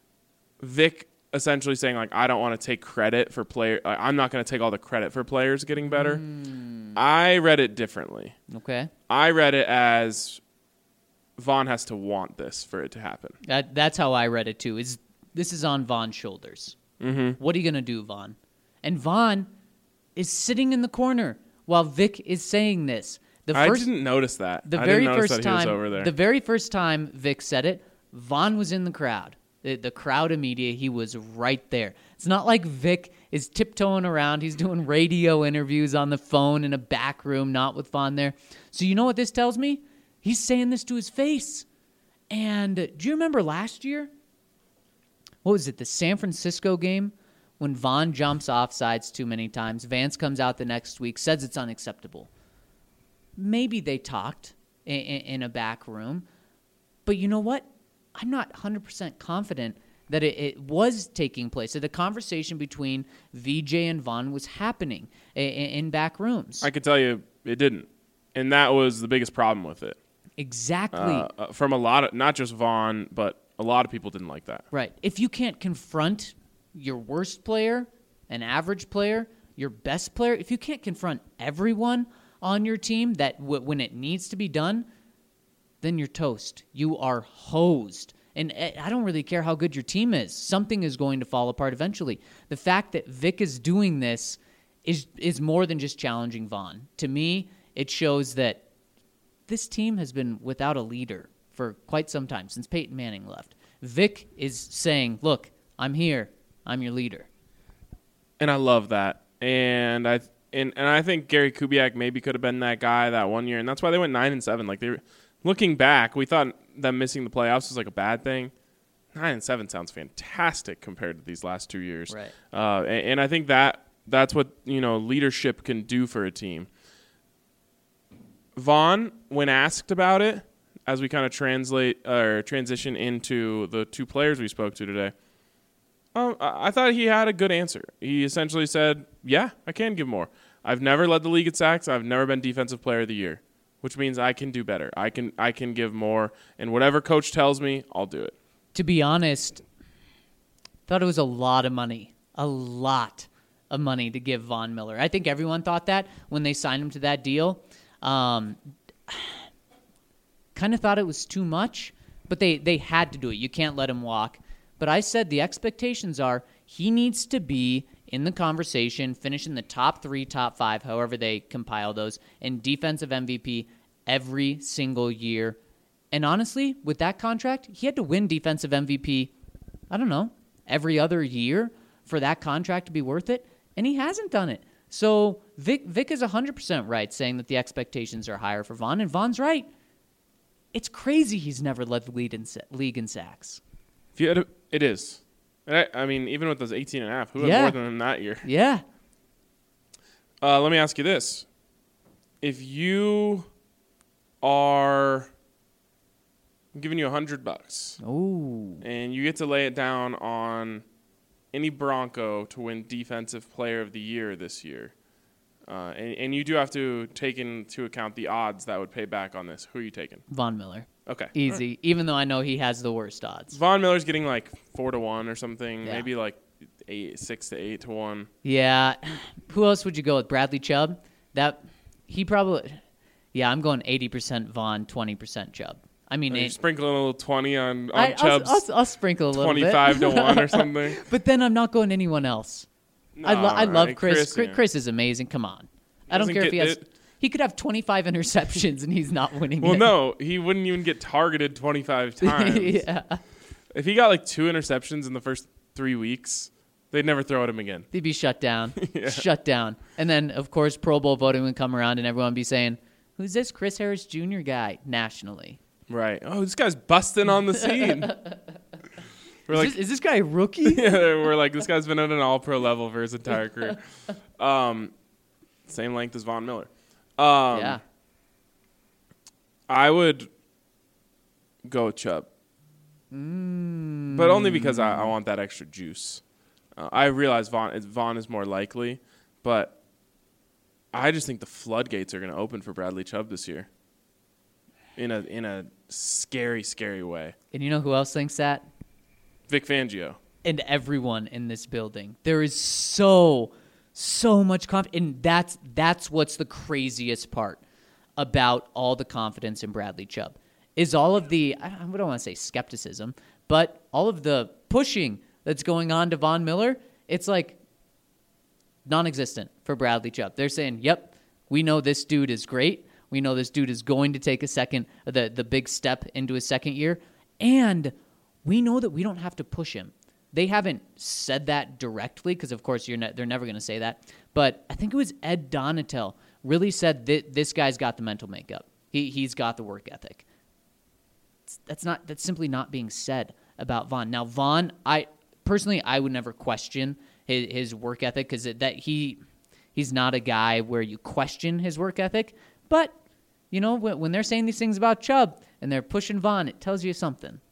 [SPEAKER 1] Vic essentially saying, like, I don't want to take credit for player. Uh, I'm not going to take all the credit for players getting better. Mm. I read it differently.
[SPEAKER 3] Okay.
[SPEAKER 1] I read it as Vaughn has to want this for it to happen.
[SPEAKER 3] That that's how I read it too. Is this is on Vaughn's shoulders? Mm-hmm. What are you gonna do, Vaughn? And Vaughn is sitting in the corner while Vic is saying this. The first,
[SPEAKER 1] I didn't notice that.
[SPEAKER 3] The
[SPEAKER 1] I
[SPEAKER 3] very
[SPEAKER 1] didn't notice
[SPEAKER 3] first
[SPEAKER 1] that he was
[SPEAKER 3] time,
[SPEAKER 1] over there.
[SPEAKER 3] the very first time Vic said it, Vaughn was in the crowd. The, the crowd of media, he was right there. It's not like Vic is tiptoeing around. He's doing radio interviews on the phone in a back room, not with Vaughn there. So you know what this tells me? He's saying this to his face. And uh, do you remember last year? What was it, the San Francisco game? When Vaughn jumps offsides too many times. Vance comes out the next week, says it's unacceptable. Maybe they talked in, in, in a back room. But you know what? I'm not one hundred percent confident that it, it was taking place, that the conversation between V J and Vaughn was happening in, in back rooms.
[SPEAKER 1] I could tell you it didn't. And that was the biggest problem with it.
[SPEAKER 3] Exactly.
[SPEAKER 1] Uh, from a lot of, not just Vaughn, but a lot of people didn't like that.
[SPEAKER 3] Right. If you can't confront your worst player, an average player, your best player, if you can't confront everyone on your team that w- when it needs to be done, then you're toast. You are hosed. And I don't really care how good your team is. Something is going to fall apart eventually. The fact that Vic is doing this is is more than just challenging Vaughn. To me, it shows that this team has been without a leader for quite some time, since Peyton Manning left. Vic is saying, look, I'm here. I'm your leader.
[SPEAKER 1] And I love that. And I and, and I think Gary Kubiak maybe could have been that guy that one year, and that's why they went nine and seven. Like they were, looking back, we thought them missing the playoffs was like a bad thing. Nine and seven sounds fantastic compared to these last two years.
[SPEAKER 3] Right.
[SPEAKER 1] Uh, and, and I think that that's what, you know, leadership can do for a team. Vaughn, when asked about it, as we kind of translate or transition into the two players we spoke to today, um, I thought he had a good answer. He essentially said, yeah, I can give more. I've never led the league at sacks. I've never been defensive player of the year, which means I can do better. I can I can give more, and whatever coach tells me, I'll do it.
[SPEAKER 3] To be honest, thought it was a lot of money, a lot of money to give Von Miller. I think everyone thought that when they signed him to that deal. Um, kind of thought it was too much, but they, they had to do it. You can't let him walk. But I said the expectations are he needs to be in the conversation, finish in the top three, top five, however they compile those, and defensive M V P every single year. And honestly, with that contract, he had to win defensive M V P, I don't know, every other year for that contract to be worth it, and he hasn't done it. So Vic, Vic is one hundred percent right saying that the expectations are higher for Vaughn, and Vaughn's right. It's crazy he's never led the lead in, league in sacks.
[SPEAKER 1] If you had a, it is. And I, I mean, even with those eighteen and a half, who
[SPEAKER 3] Yeah.
[SPEAKER 1] had more than him that year?
[SPEAKER 3] Yeah.
[SPEAKER 1] Uh, let me ask you this. If you are I'm giving you a hundred bucks,
[SPEAKER 3] Ooh.
[SPEAKER 1] and you get to lay it down on any Bronco to win Defensive Player of the Year this year, uh, and, and you do have to take into account the odds that would pay back on this, who are you taking?
[SPEAKER 3] Von Miller.
[SPEAKER 1] Okay.
[SPEAKER 3] Easy. Right. Even though I know he has the worst odds.
[SPEAKER 1] Von Miller's getting like four to one or something,
[SPEAKER 3] Yeah.
[SPEAKER 1] maybe like eight, six to eight to one.
[SPEAKER 3] Yeah. Who else would you go with? Bradley Chubb? That he probably. Yeah, I'm going eighty percent Vaughn, twenty percent Chubb. I mean,
[SPEAKER 1] Are you
[SPEAKER 3] it,
[SPEAKER 1] sprinkling a little twenty on, on
[SPEAKER 3] I,
[SPEAKER 1] Chubb's
[SPEAKER 3] I'll, I'll, I'll sprinkle a little
[SPEAKER 1] twenty-five
[SPEAKER 3] bit.
[SPEAKER 1] to one or something.
[SPEAKER 3] But then I'm not going anyone else. I, lo- I love
[SPEAKER 1] Right,
[SPEAKER 3] Chris.
[SPEAKER 1] Chris,
[SPEAKER 3] Chris,
[SPEAKER 1] yeah.
[SPEAKER 3] Chris is amazing. Come on. I don't
[SPEAKER 1] Doesn't
[SPEAKER 3] care if he
[SPEAKER 1] get
[SPEAKER 3] has.
[SPEAKER 1] it-
[SPEAKER 3] He could have twenty-five interceptions and he's not winning.
[SPEAKER 1] Well,
[SPEAKER 3] it.
[SPEAKER 1] no, he wouldn't even get targeted twenty-five times.
[SPEAKER 3] Yeah.
[SPEAKER 1] If he got like two interceptions in the first three weeks, they'd never throw at him again.
[SPEAKER 3] They'd be shut down.
[SPEAKER 1] Yeah.
[SPEAKER 3] Shut down. And then, of course, Pro Bowl voting would come around and everyone would be saying, who's this Chris Harris Junior guy nationally?
[SPEAKER 1] Right. Oh, this guy's busting on the scene. We're
[SPEAKER 3] Is,
[SPEAKER 1] like,
[SPEAKER 3] this, is this guy a rookie?
[SPEAKER 1] yeah, we're like, this guy's been at an all-pro level for his entire career. Um, same length as Von Miller. Um,
[SPEAKER 3] Yeah.
[SPEAKER 1] I would go with Chubb.
[SPEAKER 3] Mm.
[SPEAKER 1] But only because I, I want that extra juice. Uh, I realize Vaughn, Vaughn is more likely, but I just think the floodgates are going to open for Bradley Chubb this year in a in a scary, scary way.
[SPEAKER 3] And you know who else thinks that?
[SPEAKER 1] Vic Fangio.
[SPEAKER 3] And everyone in this building. There is so, so much confidence. And that's, that's what's the craziest part about all the confidence in Bradley Chubb. Is all of the, I don't want to say skepticism, but all of the pushing that's going on to Von Miller, it's like non-existent for Bradley Chubb. They're saying, yep, we know this dude is great. We know this dude is going to take a second, the, the big step into his second year. And we know that we don't have to push him. They haven't said that directly because, of course, you're ne- they're never going to say that. But I think it was Ed Donatel really said that this guy's got the mental makeup. He, he's got the work ethic. That's not. That's simply not being said about Vaughn. Now, Vaughn, I personally, I would never question his, his work ethic because that he he's not a guy where you question his work ethic. But you know, when, when they're saying these things about Chubb and they're pushing Vaughn, it tells you something.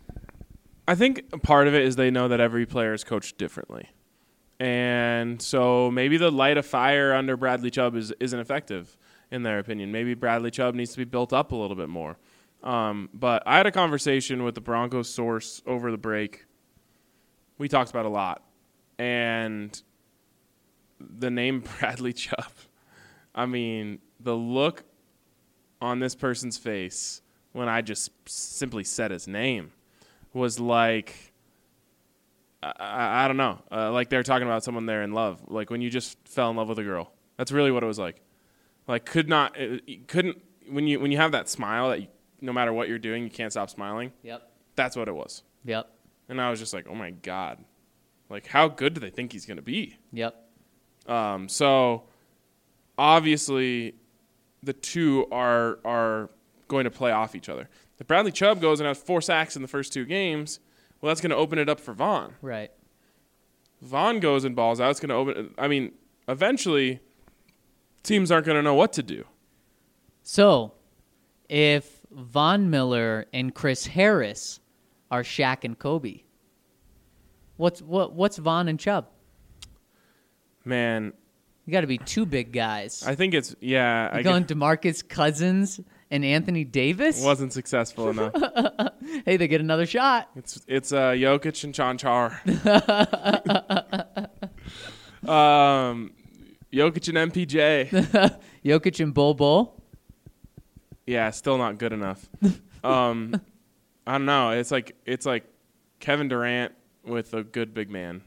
[SPEAKER 1] I think part of it is they know that every player is coached differently, and so maybe the light of fire under Bradley Chubb is isn't effective in their opinion. Maybe Bradley Chubb needs to be built up a little bit more. Um, but I had a conversation with the Broncos source over the break. We talked about a lot. And the name Bradley Chubb, I mean, the look on this person's face when I just simply said his name was like, I, I, I don't know, uh, like they were talking about someone they're in love. Like when you just fell in love with a girl. That's really what it was like. Like could not, it, couldn't, when you when you have that smile that you, no matter what you're doing, you can't stop smiling.
[SPEAKER 3] Yep.
[SPEAKER 1] That's what it was.
[SPEAKER 3] Yep.
[SPEAKER 1] And I was just like, oh, my God. Like, how good do they think he's going to be?
[SPEAKER 3] Yep.
[SPEAKER 1] Um, so, obviously, the two are are going to play off each other. If Bradley Chubb goes and has four sacks in the first two games, well, that's going to open it up for Vaughn.
[SPEAKER 3] Right.
[SPEAKER 1] Vaughn goes and balls out. It's going to open – I mean, eventually, teams aren't going to know what to do.
[SPEAKER 3] So, if Von Miller and Chris Harris are Shaq and Kobe, what's what what's Von and Chubb?
[SPEAKER 1] Man,
[SPEAKER 3] You got to be two big guys.
[SPEAKER 1] I think it's yeah.
[SPEAKER 3] You
[SPEAKER 1] I
[SPEAKER 3] going
[SPEAKER 1] get,
[SPEAKER 3] DeMarcus Cousins and Anthony Davis?
[SPEAKER 1] wasn't successful enough.
[SPEAKER 3] Hey, they get another shot.
[SPEAKER 1] It's it's uh, Jokic and Chanchar. um, Jokic and M P J.
[SPEAKER 3] Jokic and Bol Bol.
[SPEAKER 1] Yeah, still not good enough. Um, I don't know. It's like it's like Kevin Durant with a good big man.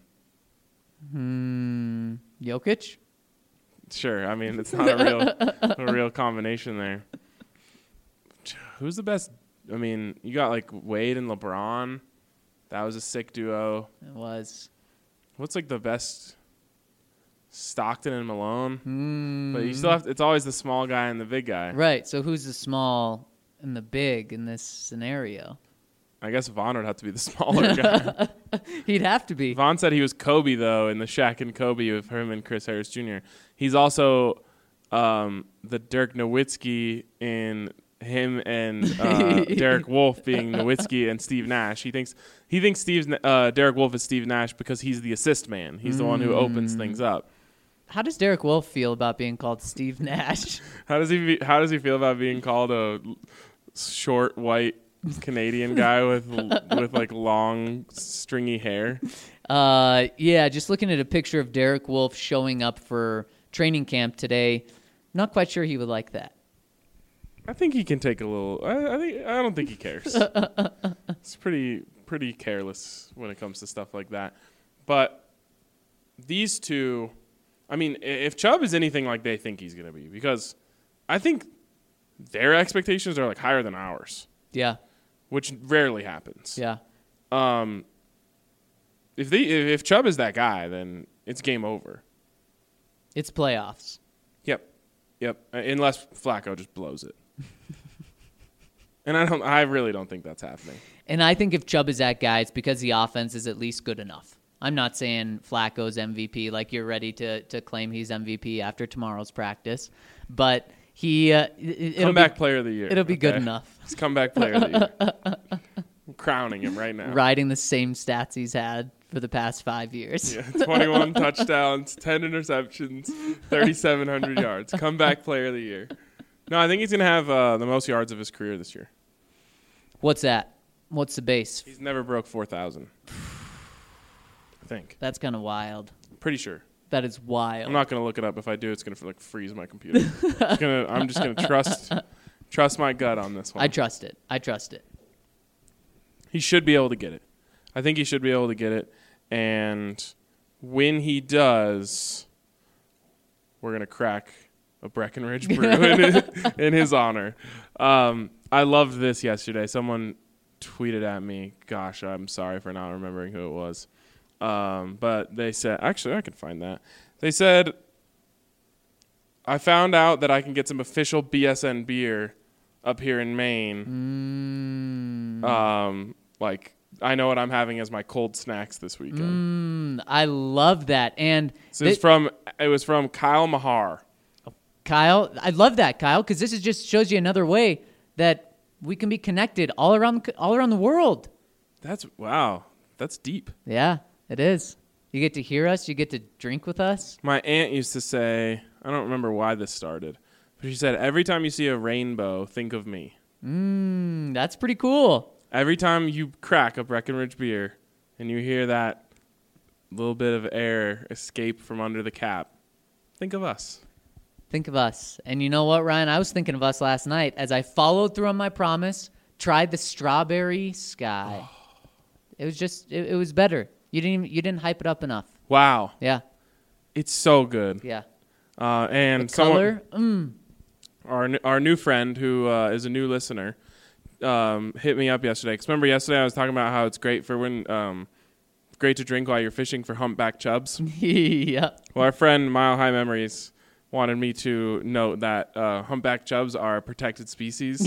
[SPEAKER 3] Hmm. Jokic.
[SPEAKER 1] Sure. I mean, it's not a real a real combination there. Who's the best? I mean, you got like Wade and LeBron. That was a sick duo.
[SPEAKER 3] It was.
[SPEAKER 1] What's like the best? Stockton and Malone.
[SPEAKER 3] Mm.
[SPEAKER 1] But you still have to, it's always the small guy and the big guy.
[SPEAKER 3] Right. So who's the small and the big in this scenario?
[SPEAKER 1] I guess Vaughn would have to be the smaller guy.
[SPEAKER 3] He'd have to be.
[SPEAKER 1] Vaughn said he was Kobe, though, in the Shaq and Kobe with him and Chris Harris Junior He's also um, the Dirk Nowitzki in him and uh, Derek Wolfe being Nowitzki and Steve Nash. He thinks he thinks Steve uh, Derek Wolfe is Steve Nash because he's the assist man. He's the one who opens things up.
[SPEAKER 3] How does Derek Wolfe feel about being called Steve Nash?
[SPEAKER 1] How does he be, how does he feel about being called a short white Canadian guy with with like long stringy hair?
[SPEAKER 3] Uh, yeah, just looking at a picture of Derek Wolfe showing up for training camp today, not quite sure he would like that.
[SPEAKER 1] I think he can take a little. I, I think I don't think he cares. It's pretty pretty careless when it comes to stuff like that. But these two, I mean, if Chubb is anything like they think he's going to be, because I think their expectations are like higher than ours.
[SPEAKER 3] Yeah.
[SPEAKER 1] Which rarely happens.
[SPEAKER 3] Yeah.
[SPEAKER 1] Um, if they if, if Chubb is that guy, then it's game over.
[SPEAKER 3] It's playoffs.
[SPEAKER 1] Yep, yep. Uh, unless Flacco just blows it, and I don't. I really don't think that's happening.
[SPEAKER 3] And I think if Chubb is that guy, it's because the offense is at least good enough. I'm not saying Flacco's M V P like you're ready to to claim he's M V P after tomorrow's practice, but He uh, it, it'll
[SPEAKER 1] Comeback
[SPEAKER 3] be,
[SPEAKER 1] player of the year.
[SPEAKER 3] It'll be good
[SPEAKER 1] okay?
[SPEAKER 3] enough.
[SPEAKER 1] It's comeback player of the year. I'm crowning him right now.
[SPEAKER 3] Riding the same stats he's had for the past five years.
[SPEAKER 1] Yeah, twenty-one touchdowns, ten interceptions, thirty-seven hundred yards. Comeback player of the year. No, I think he's going to have uh, the most yards of his career this year.
[SPEAKER 3] What's that? What's the base?
[SPEAKER 1] He's never broke four thousand. I think.
[SPEAKER 3] That's kind of wild.
[SPEAKER 1] Pretty sure.
[SPEAKER 3] That is wild.
[SPEAKER 1] I'm not going to look it up. If I do, it's going to like freeze my computer. It's gonna, I'm just going to trust trust my gut on this one.
[SPEAKER 3] I trust it. I trust it.
[SPEAKER 1] He should be able to get it. I think he should be able to get it. And when he does, we're going to crack a Breckenridge brew in, in his honor. Um, I loved this yesterday. Someone tweeted at me. Gosh, I'm sorry for not remembering who it was. Um, but they said, actually, I can find that. They said, I found out that I can get some official B S N beer up here in Maine.
[SPEAKER 3] Mm.
[SPEAKER 1] Um, like, I know what I'm having as my cold snacks this weekend.
[SPEAKER 3] Mm, I love that. And
[SPEAKER 1] So it's
[SPEAKER 3] thi-
[SPEAKER 1] from it was from Kyle Mahar.
[SPEAKER 3] Kyle, I love that, Kyle, because this is just shows you another way that we can be connected all around all around the world.
[SPEAKER 1] That's wow. That's deep.
[SPEAKER 3] Yeah, it is. You get to hear us. You get to drink with us.
[SPEAKER 1] My aunt used to say, I don't remember why this started, but she said, every time you see a rainbow, think of me.
[SPEAKER 3] Mm, that's pretty cool.
[SPEAKER 1] Every time you crack a Breckenridge beer and you hear that little bit of air escape from under the cap, think of us.
[SPEAKER 3] Think of us. And you know what, Ryan? I was thinking of us last night as I followed through on my promise, tried the strawberry sky. It was just, it, it was better. You didn't even, you didn't hype it up enough.
[SPEAKER 1] Wow.
[SPEAKER 3] Yeah,
[SPEAKER 1] It's so good.
[SPEAKER 3] yeah.
[SPEAKER 1] Uh, and
[SPEAKER 3] The
[SPEAKER 1] someone,
[SPEAKER 3] color, mm.
[SPEAKER 1] our n- our new friend who uh, is a new listener um, hit me up yesterday. Because remember yesterday I was talking about how it's great for when um, great to drink while you're fishing for humpback chubs.
[SPEAKER 3] yeah.
[SPEAKER 1] Well, our friend Mile High Memories wanted me to note that uh, humpback chubs are a protected species,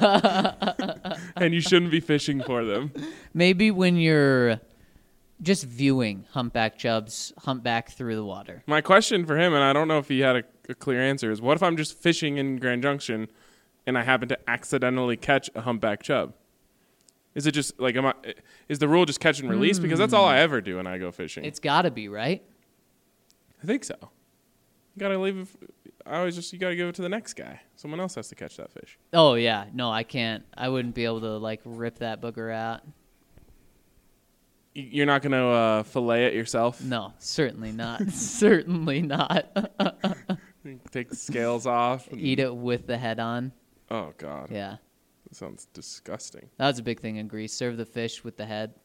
[SPEAKER 1] and you shouldn't be fishing for them.
[SPEAKER 3] Maybe when you're just viewing humpback chubs humpback through the water.
[SPEAKER 1] My question for him, and I don't know if he had a, a clear answer, is what if I'm just fishing in Grand Junction and I happen to accidentally catch a humpback chub? Is it just like, am I, is the rule just catch and release? Because that's all I ever do when I go fishing.
[SPEAKER 3] It's got to be, right?
[SPEAKER 1] I think so. You gotta leave it. I always just you gotta give it to the next guy. Someone else has to catch that fish.
[SPEAKER 3] Oh, yeah. No, I can't. I wouldn't be able to, like, rip that booger out.
[SPEAKER 1] Y- You're not gonna uh, fillet it yourself.
[SPEAKER 3] No, certainly not. certainly not.
[SPEAKER 1] Take the scales off. and-
[SPEAKER 3] Eat it with the head on.
[SPEAKER 1] Oh God.
[SPEAKER 3] Yeah.
[SPEAKER 1] That sounds disgusting.
[SPEAKER 3] That was a big thing in Greece. Serve the fish with the head.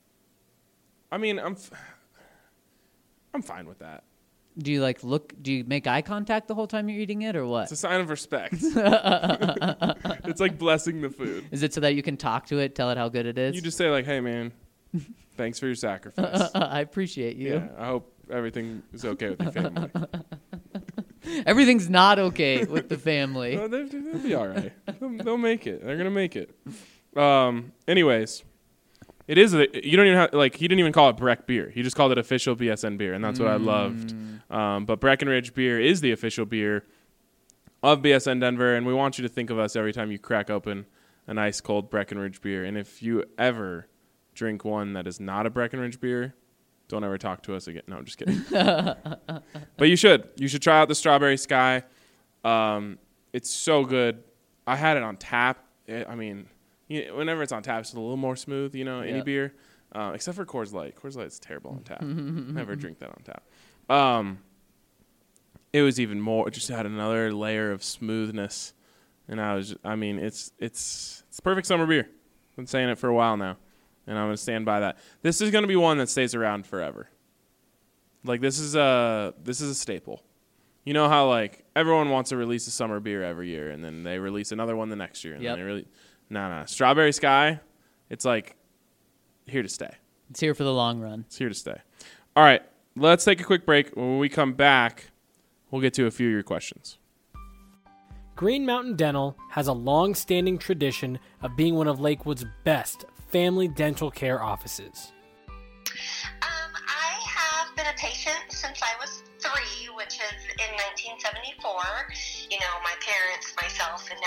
[SPEAKER 1] I mean, I'm. F- I'm fine with that.
[SPEAKER 3] Do you, like, look, do you make eye contact the whole time you're eating it or what?
[SPEAKER 1] It's a sign of respect. It's like blessing the food.
[SPEAKER 3] Is it so that you can talk to it, tell it how good it is?
[SPEAKER 1] You just say like, "Hey, man, thanks for your sacrifice.
[SPEAKER 3] I appreciate you.
[SPEAKER 1] Yeah, I hope everything is okay with your family.
[SPEAKER 3] Everything's not okay with the family.
[SPEAKER 1] Oh, they, they'll be all right. They'll, they'll make it. They're gonna make it. Um. Anyways, it is. A, you don't even have like. He didn't even call it Breck beer. He just called it official B S N beer, and that's what I loved. Um. But Breckenridge beer is the official beer of B S N Denver, and we want you to think of us every time you crack open a nice cold Breckenridge beer. And if you ever drink one that is not a Breckenridge beer, don't ever talk to us again. No, I'm just kidding. But you should. You should try out the Strawberry Sky. Um, it's so good. I had it on tap. It, I mean, you know, whenever it's on tap, it's a little more smooth, you know, any
[SPEAKER 3] Yep.
[SPEAKER 1] beer. Uh, except for Coors Light. Coors Light's terrible on tap. Never drink that on tap. Um, it was even more. It just had another layer of smoothness. And I was, I mean, it's it's it's perfect summer beer. I've been saying it for a while now, and I'm gonna stand by that. This is gonna be one that stays around forever. Like this is a this is a staple. You know how like everyone wants to release a summer beer every year, and then they release another one the next year, and
[SPEAKER 3] Yep.
[SPEAKER 1] then they really, no, no, Strawberry Sky, it's like here to stay.
[SPEAKER 3] It's here for the long run.
[SPEAKER 1] It's here to stay. All right, let's take a quick break. When we come back, we'll get to a few of your questions.
[SPEAKER 4] Green Mountain Dental has a long-standing tradition of being one of Lakewood's best family dental care offices.
[SPEAKER 5] Um, I have been a patient since I was three, which is in nineteen seventy-four. You know, my parents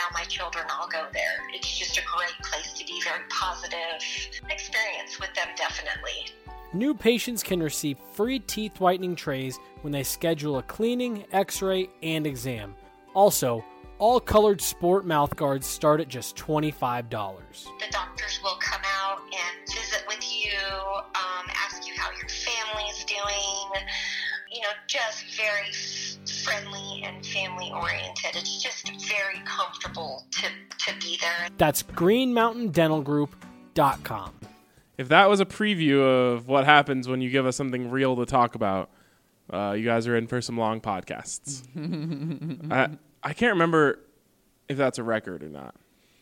[SPEAKER 5] now my children all go there. It's just a great place to be, very positive experience with them, definitely.
[SPEAKER 4] New patients can receive free teeth whitening trays when they schedule a cleaning, x-ray, and exam. Also, all colored sport mouth guards start at just twenty-five dollars.
[SPEAKER 5] The doctors will come out and visit with you, um, ask you how your family's doing, you know, just very friendly and family oriented. It's just very comfortable to, to be there.
[SPEAKER 4] That's green mountain dental group dot com.
[SPEAKER 1] If that was a preview of what happens when you give us something real to talk about, uh, you guys are in for some long podcasts. I, I can't remember if that's a record or not.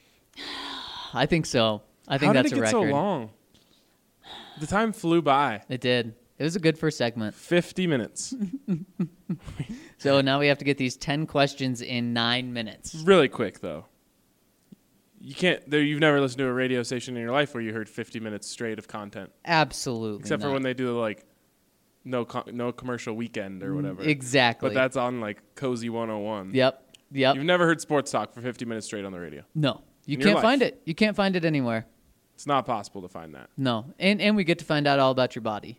[SPEAKER 3] I think so. I think
[SPEAKER 1] How
[SPEAKER 3] that's
[SPEAKER 1] did it
[SPEAKER 3] a
[SPEAKER 1] get
[SPEAKER 3] record.
[SPEAKER 1] so long? The time flew by.
[SPEAKER 3] It did. It was a good first segment.
[SPEAKER 1] fifty minutes.
[SPEAKER 3] So now we have to get these ten questions in nine minutes.
[SPEAKER 1] Really quick, though. You can't. There, you've never listened to a radio station in your life where you heard fifty minutes straight of content,
[SPEAKER 3] Absolutely.
[SPEAKER 1] except for
[SPEAKER 3] not.
[SPEAKER 1] when they do like no co- no commercial weekend or whatever.
[SPEAKER 3] Exactly.
[SPEAKER 1] But that's on like Cozy one oh one.
[SPEAKER 3] Yep. Yep.
[SPEAKER 1] You've never heard sports talk for fifty minutes straight on the radio.
[SPEAKER 3] No. You
[SPEAKER 1] In your
[SPEAKER 3] can't
[SPEAKER 1] life.
[SPEAKER 3] find it. You can't find it anywhere.
[SPEAKER 1] It's not possible to find that.
[SPEAKER 3] No. And and we get to find out all about your body.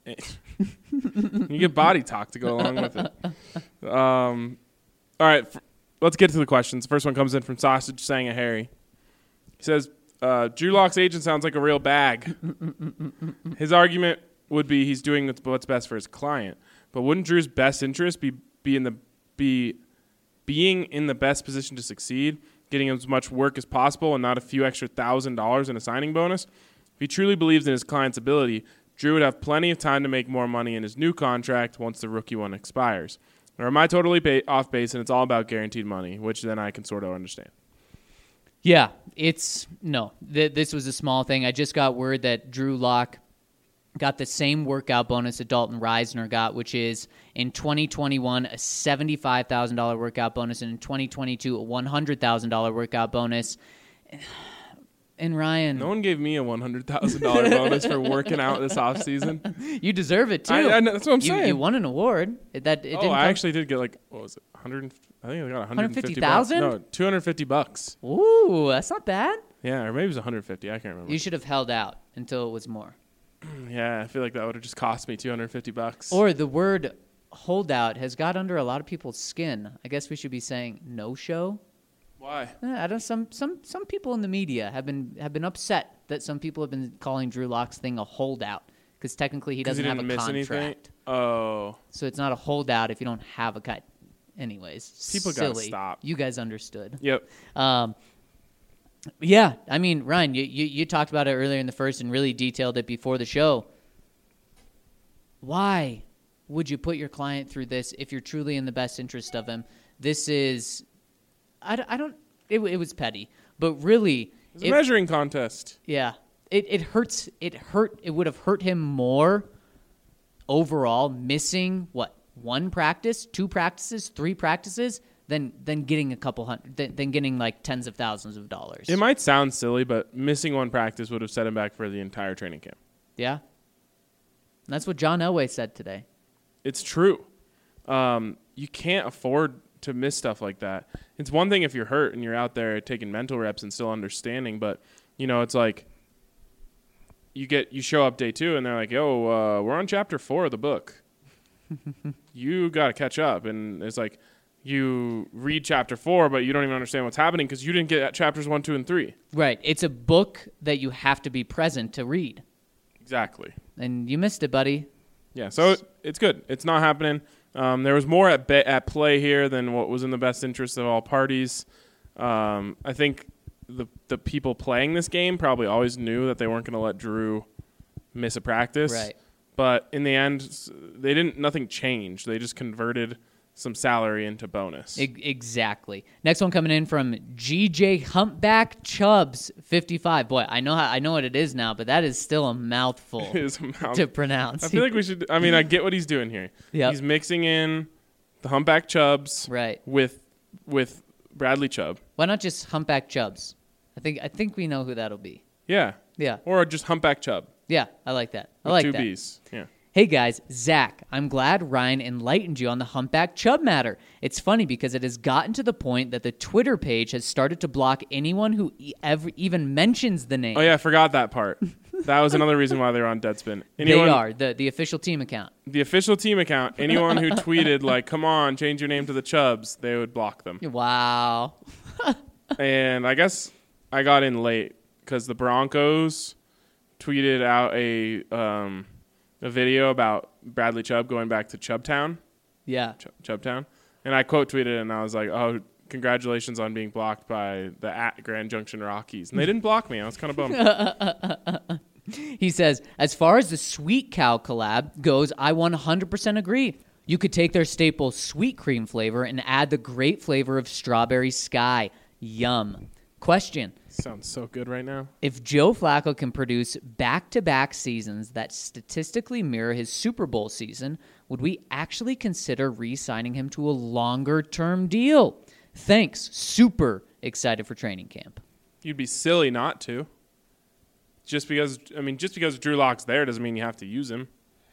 [SPEAKER 1] You get body talk to go along with it. Um, all right, f- let's get to the questions. First one comes in from Sausage Sang a Harry. He says, uh, Drew Lock's agent sounds like a real bag. His argument would be he's doing what's best for his client. But wouldn't Drew's best interest be, be in the be being in the best position to succeed, getting as much work as possible and not a few extra thousand dollars in a signing bonus? If he truly believes in his client's ability, Drew would have plenty of time to make more money in his new contract once the rookie one expires. Or am I totally ba- off base and it's all about guaranteed money, which then I can sort of understand?
[SPEAKER 3] Yeah, it's no. Th- this was a small thing. I just got word that Drew Lock got the same workout bonus that Dalton Reisner got, which is in twenty twenty-one a seventy-five thousand dollars workout bonus, and in twenty twenty-two a one hundred thousand dollars workout bonus. And Ryan,
[SPEAKER 1] No one gave me a one hundred thousand dollars bonus for working out this offseason.
[SPEAKER 3] you deserve it too.
[SPEAKER 1] I, I know, that's what I'm
[SPEAKER 3] you,
[SPEAKER 1] saying.
[SPEAKER 3] you won an award. It, that it
[SPEAKER 1] oh,
[SPEAKER 3] didn't
[SPEAKER 1] I
[SPEAKER 3] come-
[SPEAKER 1] actually did get like, what was it, one hundred? I think I got one hundred fifty
[SPEAKER 3] one hundred fifty thousand?
[SPEAKER 1] bucks. No, two hundred fifty bucks.
[SPEAKER 3] Ooh, that's not bad.
[SPEAKER 1] Yeah, or maybe it was one hundred fifty. I can't remember.
[SPEAKER 3] You should have held out until it was more.
[SPEAKER 1] Yeah, I feel like that would have just cost me two hundred fifty bucks.
[SPEAKER 3] Or the word holdout has got under a lot of people's skin. I guess we should be saying no show.
[SPEAKER 1] Why?
[SPEAKER 3] Eh, I don't. Some some some people in the media have been have been upset that some people have been calling Drew Lock's thing a holdout because technically he
[SPEAKER 1] 'Cause
[SPEAKER 3] doesn't
[SPEAKER 1] he
[SPEAKER 3] have
[SPEAKER 1] didn't
[SPEAKER 3] a
[SPEAKER 1] miss
[SPEAKER 3] contract.
[SPEAKER 1] anything? Oh.
[SPEAKER 3] So it's not a holdout if you don't have a cut. Anyways,
[SPEAKER 1] People gotta
[SPEAKER 3] silly.
[SPEAKER 1] stop.
[SPEAKER 3] You guys understood.
[SPEAKER 1] Yep.
[SPEAKER 3] Um, yeah, I mean, Ryan, you, you you talked about it earlier in the first and really detailed it before the show. Why would you put your client through this if you're truly in the best interest of him? This is, I, don't- I don't, it, it was petty, but really,
[SPEAKER 1] It's a
[SPEAKER 3] if-
[SPEAKER 1] measuring contest.
[SPEAKER 3] yeah, it, it hurts, it hurt, it would have hurt him more overall missing, what, one practice, two practices, three practices, than, than getting a couple hundred, than, than getting like tens of thousands of dollars.
[SPEAKER 1] It might sound silly, but missing one practice would have set him back for the entire training camp.
[SPEAKER 3] Yeah. And that's what John Elway said today.
[SPEAKER 1] It's true. Um, you can't afford to miss stuff like that. It's one thing if you're hurt and you're out there taking mental reps and still understanding, but you know, it's like you get you show up day two and they're like, "Yo, uh, we're on chapter four of the book. You got to catch up." And it's like you read chapter four, but you don't even understand what's happening because you didn't get at chapters one, two, and three.
[SPEAKER 3] Right. It's a book that you have to be present to read.
[SPEAKER 1] Exactly.
[SPEAKER 3] And you missed it, buddy.
[SPEAKER 1] Yeah, so it, it's good. It's not happening. Um, there was more at be- at play here than what was in the best interest of all parties. Um, I think the the people playing this game probably always knew that they weren't going to let Drew miss a practice.
[SPEAKER 3] Right.
[SPEAKER 1] But in the end, s- they didn't. Nothing changed. They just converted some salary into bonus.
[SPEAKER 3] E- exactly. Next one coming in from G J Humpback Chubbs fifty-five. Boy, I know how I know what it is now, but that is still a mouthful
[SPEAKER 1] It is a mouth-
[SPEAKER 3] to pronounce.
[SPEAKER 1] I feel like we should. I mean, I get what he's doing here.
[SPEAKER 3] Yep.
[SPEAKER 1] He's mixing in the humpback Chubbs
[SPEAKER 3] Right.
[SPEAKER 1] with with Bradley Chubb.
[SPEAKER 3] Why not just Humpback Chubbs? I think I think we know who that'll be.
[SPEAKER 1] Yeah.
[SPEAKER 3] Yeah.
[SPEAKER 1] Or just humpback Chubb.
[SPEAKER 3] Yeah, I like that. I
[SPEAKER 1] With
[SPEAKER 3] like
[SPEAKER 1] two
[SPEAKER 3] that.
[SPEAKER 1] B's. Yeah.
[SPEAKER 3] Hey guys, Zach, I'm glad Ryan enlightened you on the humpback chub matter. It's funny because it has gotten to the point that the Twitter page has started to block anyone who e- ever even mentions the name.
[SPEAKER 1] Oh, yeah, I forgot that part. That was another reason why they were on Deadspin. Anyone,
[SPEAKER 3] They are, the, the official team account.
[SPEAKER 1] The official team account, anyone who tweeted, like, come on, change your name to the Chubs, they would block them.
[SPEAKER 3] Wow.
[SPEAKER 1] And I guess I got in late because the Broncos tweeted out a um, a video about Bradley Chubb going back to Chubtown.
[SPEAKER 3] Yeah.
[SPEAKER 1] Ch- Chubtown. And I quote tweeted it, and I was like, oh, congratulations on being blocked by the at Grand Junction Rockies. And they didn't block me. I was kind of bummed.
[SPEAKER 3] He says, as far as the Sweet Cow collab goes, I one hundred percent agree. You could take their staple sweet cream flavor and add the great flavor of Strawberry Sky. Yum. Question.
[SPEAKER 1] Sounds so good right now.
[SPEAKER 3] If Joe Flacco can produce back-to-back seasons that statistically mirror his Super Bowl season, would we actually consider re-signing him to a longer-term deal? Thanks. Super excited for training camp.
[SPEAKER 1] You'd be silly not to. Just because, I mean, just because Drew Lock's there doesn't mean you have to use him.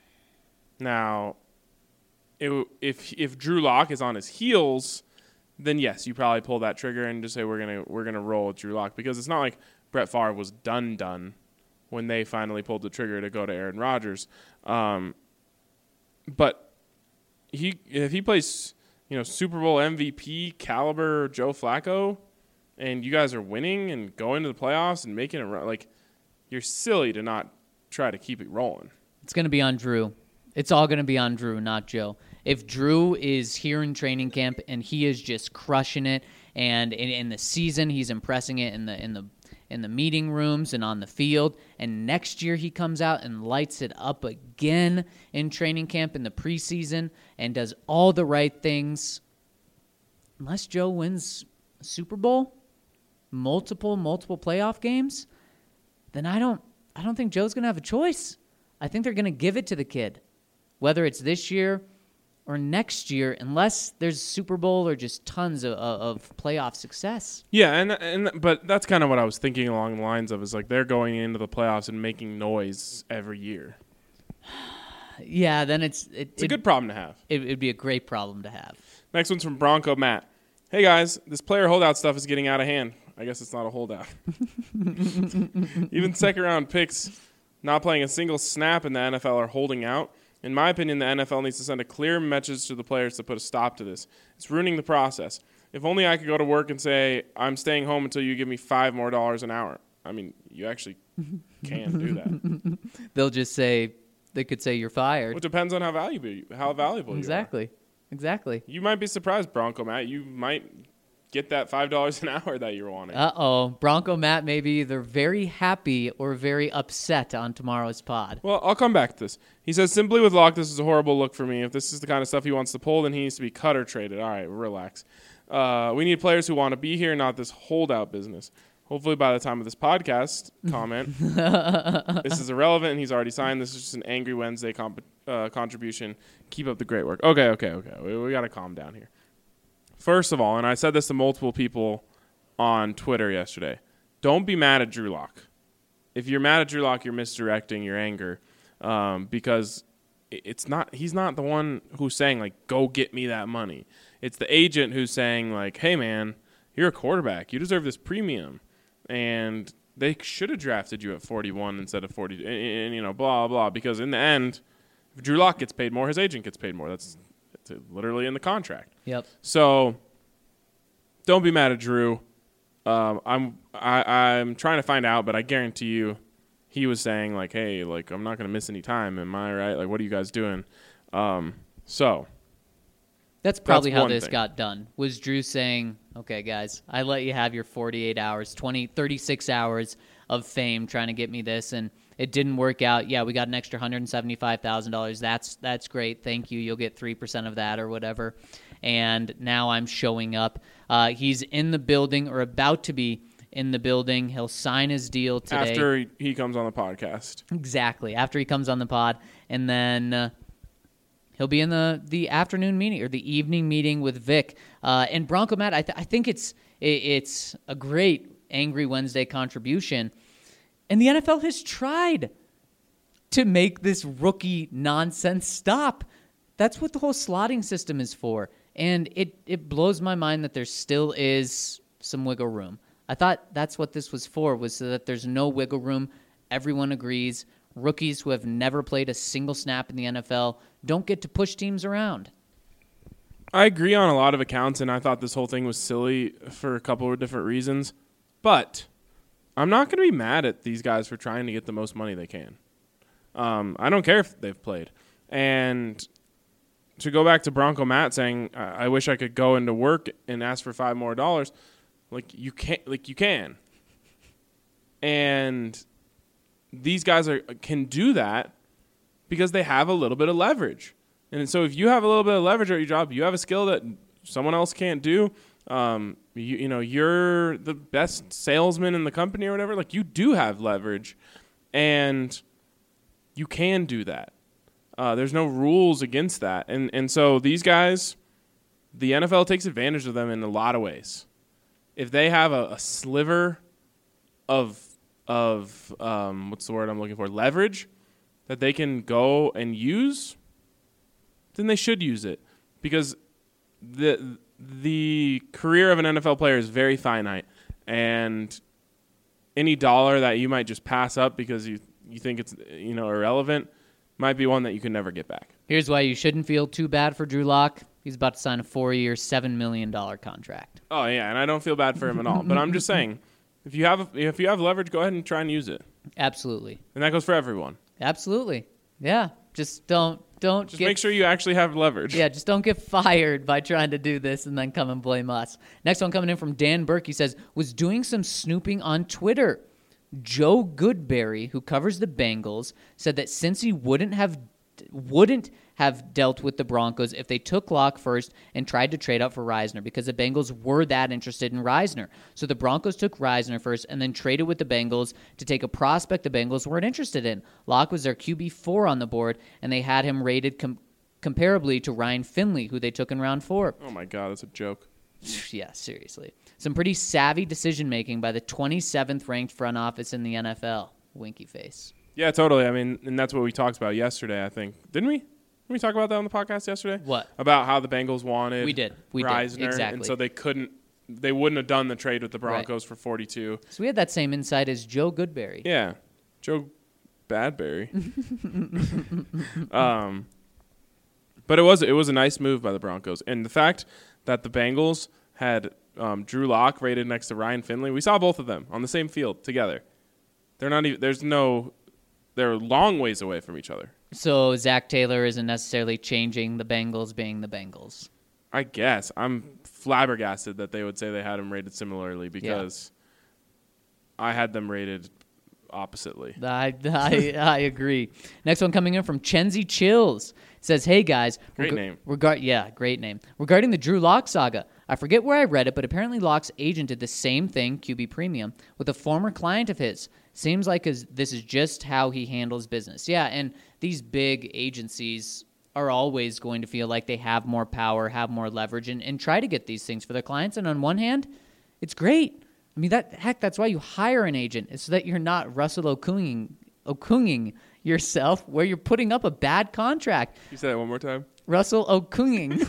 [SPEAKER 1] Now, it, if if Drew Lock is on his heels, then yes, you probably pull that trigger and just say we're gonna we're gonna roll with Drew Lock, because it's not like Brett Favre was done done when they finally pulled the trigger to go to Aaron Rodgers. Um, but he if he plays, you know, Super Bowl M V P caliber Joe Flacco, and you guys are winning and going to the playoffs and making it run, like, you're silly to not try to keep it rolling.
[SPEAKER 3] It's going to be on Drew. It's all going to be on Drew, not Joe. If Drew is here in training camp and he is just crushing it, and in, in the season he's impressing it in the in the in the meeting rooms and on the field, and next year he comes out and lights it up again in training camp in the preseason and does all the right things, unless Joe wins a Super Bowl, multiple multiple playoff games, then I don't I don't think Joe's going to have a choice. I think they're going to give it to the kid, whether it's this year or next year, unless there's Super Bowl or just tons of, of playoff success.
[SPEAKER 1] Yeah, and and but that's kind of what I was thinking along the lines of, is like they're going into the playoffs and making noise every year.
[SPEAKER 3] Yeah, then it's it,
[SPEAKER 1] It's a
[SPEAKER 3] it,
[SPEAKER 1] good problem to have.
[SPEAKER 3] It would be a great problem to have.
[SPEAKER 1] Next one's from Bronco Matt. Hey guys, this player holdout stuff is getting out of hand. I guess it's not a holdout. Even second round picks not playing a single snap in the N F L are holding out. In my opinion, the N F L needs to send a clear message to the players to put a stop to this. It's ruining the process. If only I could go to work and say, I'm staying home until you give me five more dollars an hour. I mean, you actually can do that.
[SPEAKER 3] They'll just say, they could say you're fired.
[SPEAKER 1] Well, it depends on how valuable you, how valuable
[SPEAKER 3] Exactly.
[SPEAKER 1] you are.
[SPEAKER 3] Exactly.
[SPEAKER 1] You might be surprised, Bronco Matt. You might get that five dollars an hour that you're wanting.
[SPEAKER 3] Uh-oh. Bronco Matt may be either very happy or very upset on tomorrow's pod.
[SPEAKER 1] Well, I'll come back to this. He says, simply with Locke, this is a horrible look for me. If this is the kind of stuff he wants to pull, then he needs to be cut or traded. All right, relax. Uh, we need players who want to be here, not this holdout business. Hopefully by the time of this podcast comment, this is irrelevant and he's already signed. This is just an Angry Wednesday comp- uh, contribution. Keep up the great work. Okay, okay, okay. We, we got to calm down here. First of all, and I said this to multiple people on Twitter yesterday, don't be mad at Drew Lock. If you're mad at Drew Lock, you're misdirecting your anger, um, because it's not. He's not the one who's saying, like, go get me that money. It's the agent who's saying, like, hey, man, you're a quarterback. You deserve this premium. And they should have drafted you at forty-one instead of forty, and, and you know, blah, blah, because in the end, if Drew Lock gets paid more, his agent gets paid more. That's, that's literally in the contract.
[SPEAKER 3] Yep.
[SPEAKER 1] So don't be mad at Drew. Um, I'm I, I'm trying to find out, but I guarantee you he was saying, like, hey, like, I'm not going to miss any time. Am I right? Like, what are you guys doing? Um, so
[SPEAKER 3] That's probably
[SPEAKER 1] That's
[SPEAKER 3] how
[SPEAKER 1] one
[SPEAKER 3] this
[SPEAKER 1] thing.
[SPEAKER 3] got done. Was Drew saying, okay, guys, I let you have your forty-eight hours, twenty, thirty-six hours of fame trying to get me this, and it didn't work out. Yeah, we got an extra one hundred seventy-five thousand dollars. That's that's great. Thank you. You'll get three percent of that or whatever. And now I'm showing up. Uh, he's in the building or about to be in the building. He'll sign his deal today.
[SPEAKER 1] after he, he comes on the podcast.
[SPEAKER 3] Exactly. After he comes on the pod. And then uh, he'll be in the, the afternoon meeting or the evening meeting with Vic. Uh, and Bronco Matt, I, th- I think it's it, it's a great Angry Wednesday contribution. And the N F L has tried. to make this rookie nonsense stop. That's what the whole slotting system is for. And it, it blows my mind that there still is some wiggle room. I thought that's what this was for, was so that there's no wiggle room. Everyone agrees. Rookies who have never played a single snap in the N F L don't get to push teams around.
[SPEAKER 1] I agree on a lot of accounts, and I thought this whole thing was silly for a couple of different reasons. But I'm not going to be mad at these guys for trying to get the most money they can. Um, I don't care if they've played. And to go back to Bronco Matt saying, I, I wish I could go into work and ask for five more dollars, like you can't, like you can. And these guys are can do that because they have a little bit of leverage. And so if you have a little bit of leverage at your job, you have a skill that someone else can't do. Um, you, you know, you're the best salesman in the company or whatever. Like, you do have leverage, and you can do that. Uh, there's no rules against that. And and so these guys, the N F L takes advantage of them in a lot of ways. If they have a, a sliver of of um, what's the word I'm looking for, leverage that they can go and use, then they should use it, because the the career of an N F L player is very finite, and any dollar that you might just pass up because you you think it's you know irrelevant might be one that you can never get back.
[SPEAKER 3] Here's why you shouldn't feel too bad for Drew Lock. He's about to sign a four-year, seven million dollars contract.
[SPEAKER 1] Oh yeah, and I don't feel bad for him at all. But I'm just saying, if you have if you have leverage, go ahead and try and use it.
[SPEAKER 3] Absolutely.
[SPEAKER 1] And that goes for everyone.
[SPEAKER 3] Absolutely. Yeah. Just don't don't
[SPEAKER 1] Just
[SPEAKER 3] get,
[SPEAKER 1] make sure you actually have leverage.
[SPEAKER 3] Yeah, just don't get fired by trying to do this and then come and blame us. Next one coming in from Dan Burke. He says, was doing some snooping on Twitter. Joe Goodberry, who covers the Bengals, said that since he wouldn't have wouldn't have dealt with the Broncos if they took Locke first and tried to trade up for Reisner, because the Bengals were that interested in Reisner. So the Broncos took Reisner first and then traded with the Bengals to take a prospect the Bengals weren't interested in. Locke was their Q B four on the board, and they had him rated com- comparably to Ryan Finley, who they took in round four.
[SPEAKER 1] Oh my God, that's a joke.
[SPEAKER 3] Yeah, seriously. Some pretty savvy decision-making by the twenty-seventh ranked front office in the N F L. Winky face.
[SPEAKER 1] Yeah, totally. I mean, and that's what we talked about yesterday, I think. Didn't we? Didn't we talk about that on the podcast yesterday?
[SPEAKER 3] What?
[SPEAKER 1] About how the Bengals wanted
[SPEAKER 3] We did. We
[SPEAKER 1] Reisner,
[SPEAKER 3] did. Exactly.
[SPEAKER 1] and so they couldn't, they wouldn't have done the trade with the Broncos right. for forty-two.
[SPEAKER 3] So we had that same insight as Joe Goodberry.
[SPEAKER 1] Yeah. Joe Badberry. um, but it was it was a nice move by the Broncos. And the fact that the Bengals had um, Drew Lock rated next to Ryan Finley, we saw both of them on the same field together. They're not even, there's no, they're long ways away from each other.
[SPEAKER 3] So Zach Taylor isn't necessarily changing the Bengals being the Bengals.
[SPEAKER 1] I guess. I'm flabbergasted that they would say they had them rated similarly, because yeah. I had them rated oppositely.
[SPEAKER 3] I, I, I agree. Next one coming in from Chenzi Chills. It says, hey guys.
[SPEAKER 1] Great
[SPEAKER 3] reg-
[SPEAKER 1] name.
[SPEAKER 3] Regard, yeah, great name. Regarding the Drew Lock saga, I forget where I read it, but apparently Lock's agent did the same thing, Q B Premium, with a former client of his. Seems like his, this is just how he handles business. Yeah, and these big agencies are always going to feel like they have more power, have more leverage, and, and try to get these things for their clients. And on one hand, it's great. I mean, that heck, that's why you hire an agent, is so that you're not Russell Okunging, Okunging yourself, where you're putting up a bad contract.
[SPEAKER 1] You say that one more time.
[SPEAKER 3] Russell Okunging.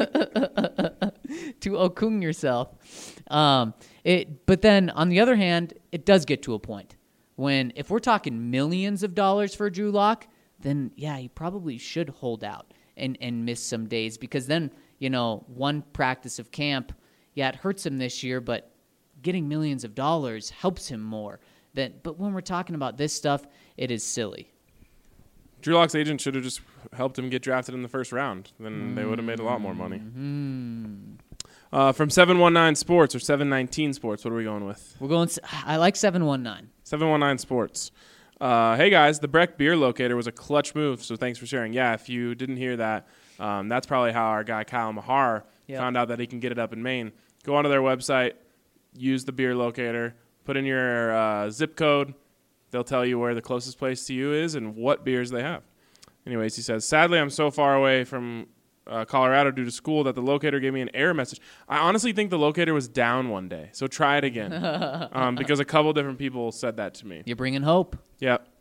[SPEAKER 3] To Okung yourself. Um, it, but then, on the other hand, it does get to a point when, if we're talking millions of dollars for Drew Lock, then, yeah, he probably should hold out and, and miss some days, because then, you know, one practice of camp, yeah, it hurts him this year, but getting millions of dollars helps him more. Than, but when we're talking about this stuff, it is silly.
[SPEAKER 1] Drew Lock's agent should have just helped him get drafted in the first round. Then mm-hmm. they would have made a lot more money.
[SPEAKER 3] Mm-hmm.
[SPEAKER 1] Uh, from seven one nine Sports or seven nineteen Sports, what are we going with?
[SPEAKER 3] We're going. I like seven one nine.
[SPEAKER 1] seven one nine Sports. Uh, hey guys, the Breck beer locator was a clutch move, so thanks for sharing. Yeah, if you didn't hear that, um, that's probably how our guy Kyle Mahar yep. found out that he can get it up in Maine. Go onto their website, use the beer locator, put in your uh, zip code. They'll tell you where the closest place to you is and what beers they have. Anyways, he says, sadly, I'm so far away from uh, Colorado due to school that the locator gave me an error message. I honestly think the locator was down one day, so try it again. um, because a couple different people said that to me.
[SPEAKER 3] You're bringing hope.
[SPEAKER 1] Yep.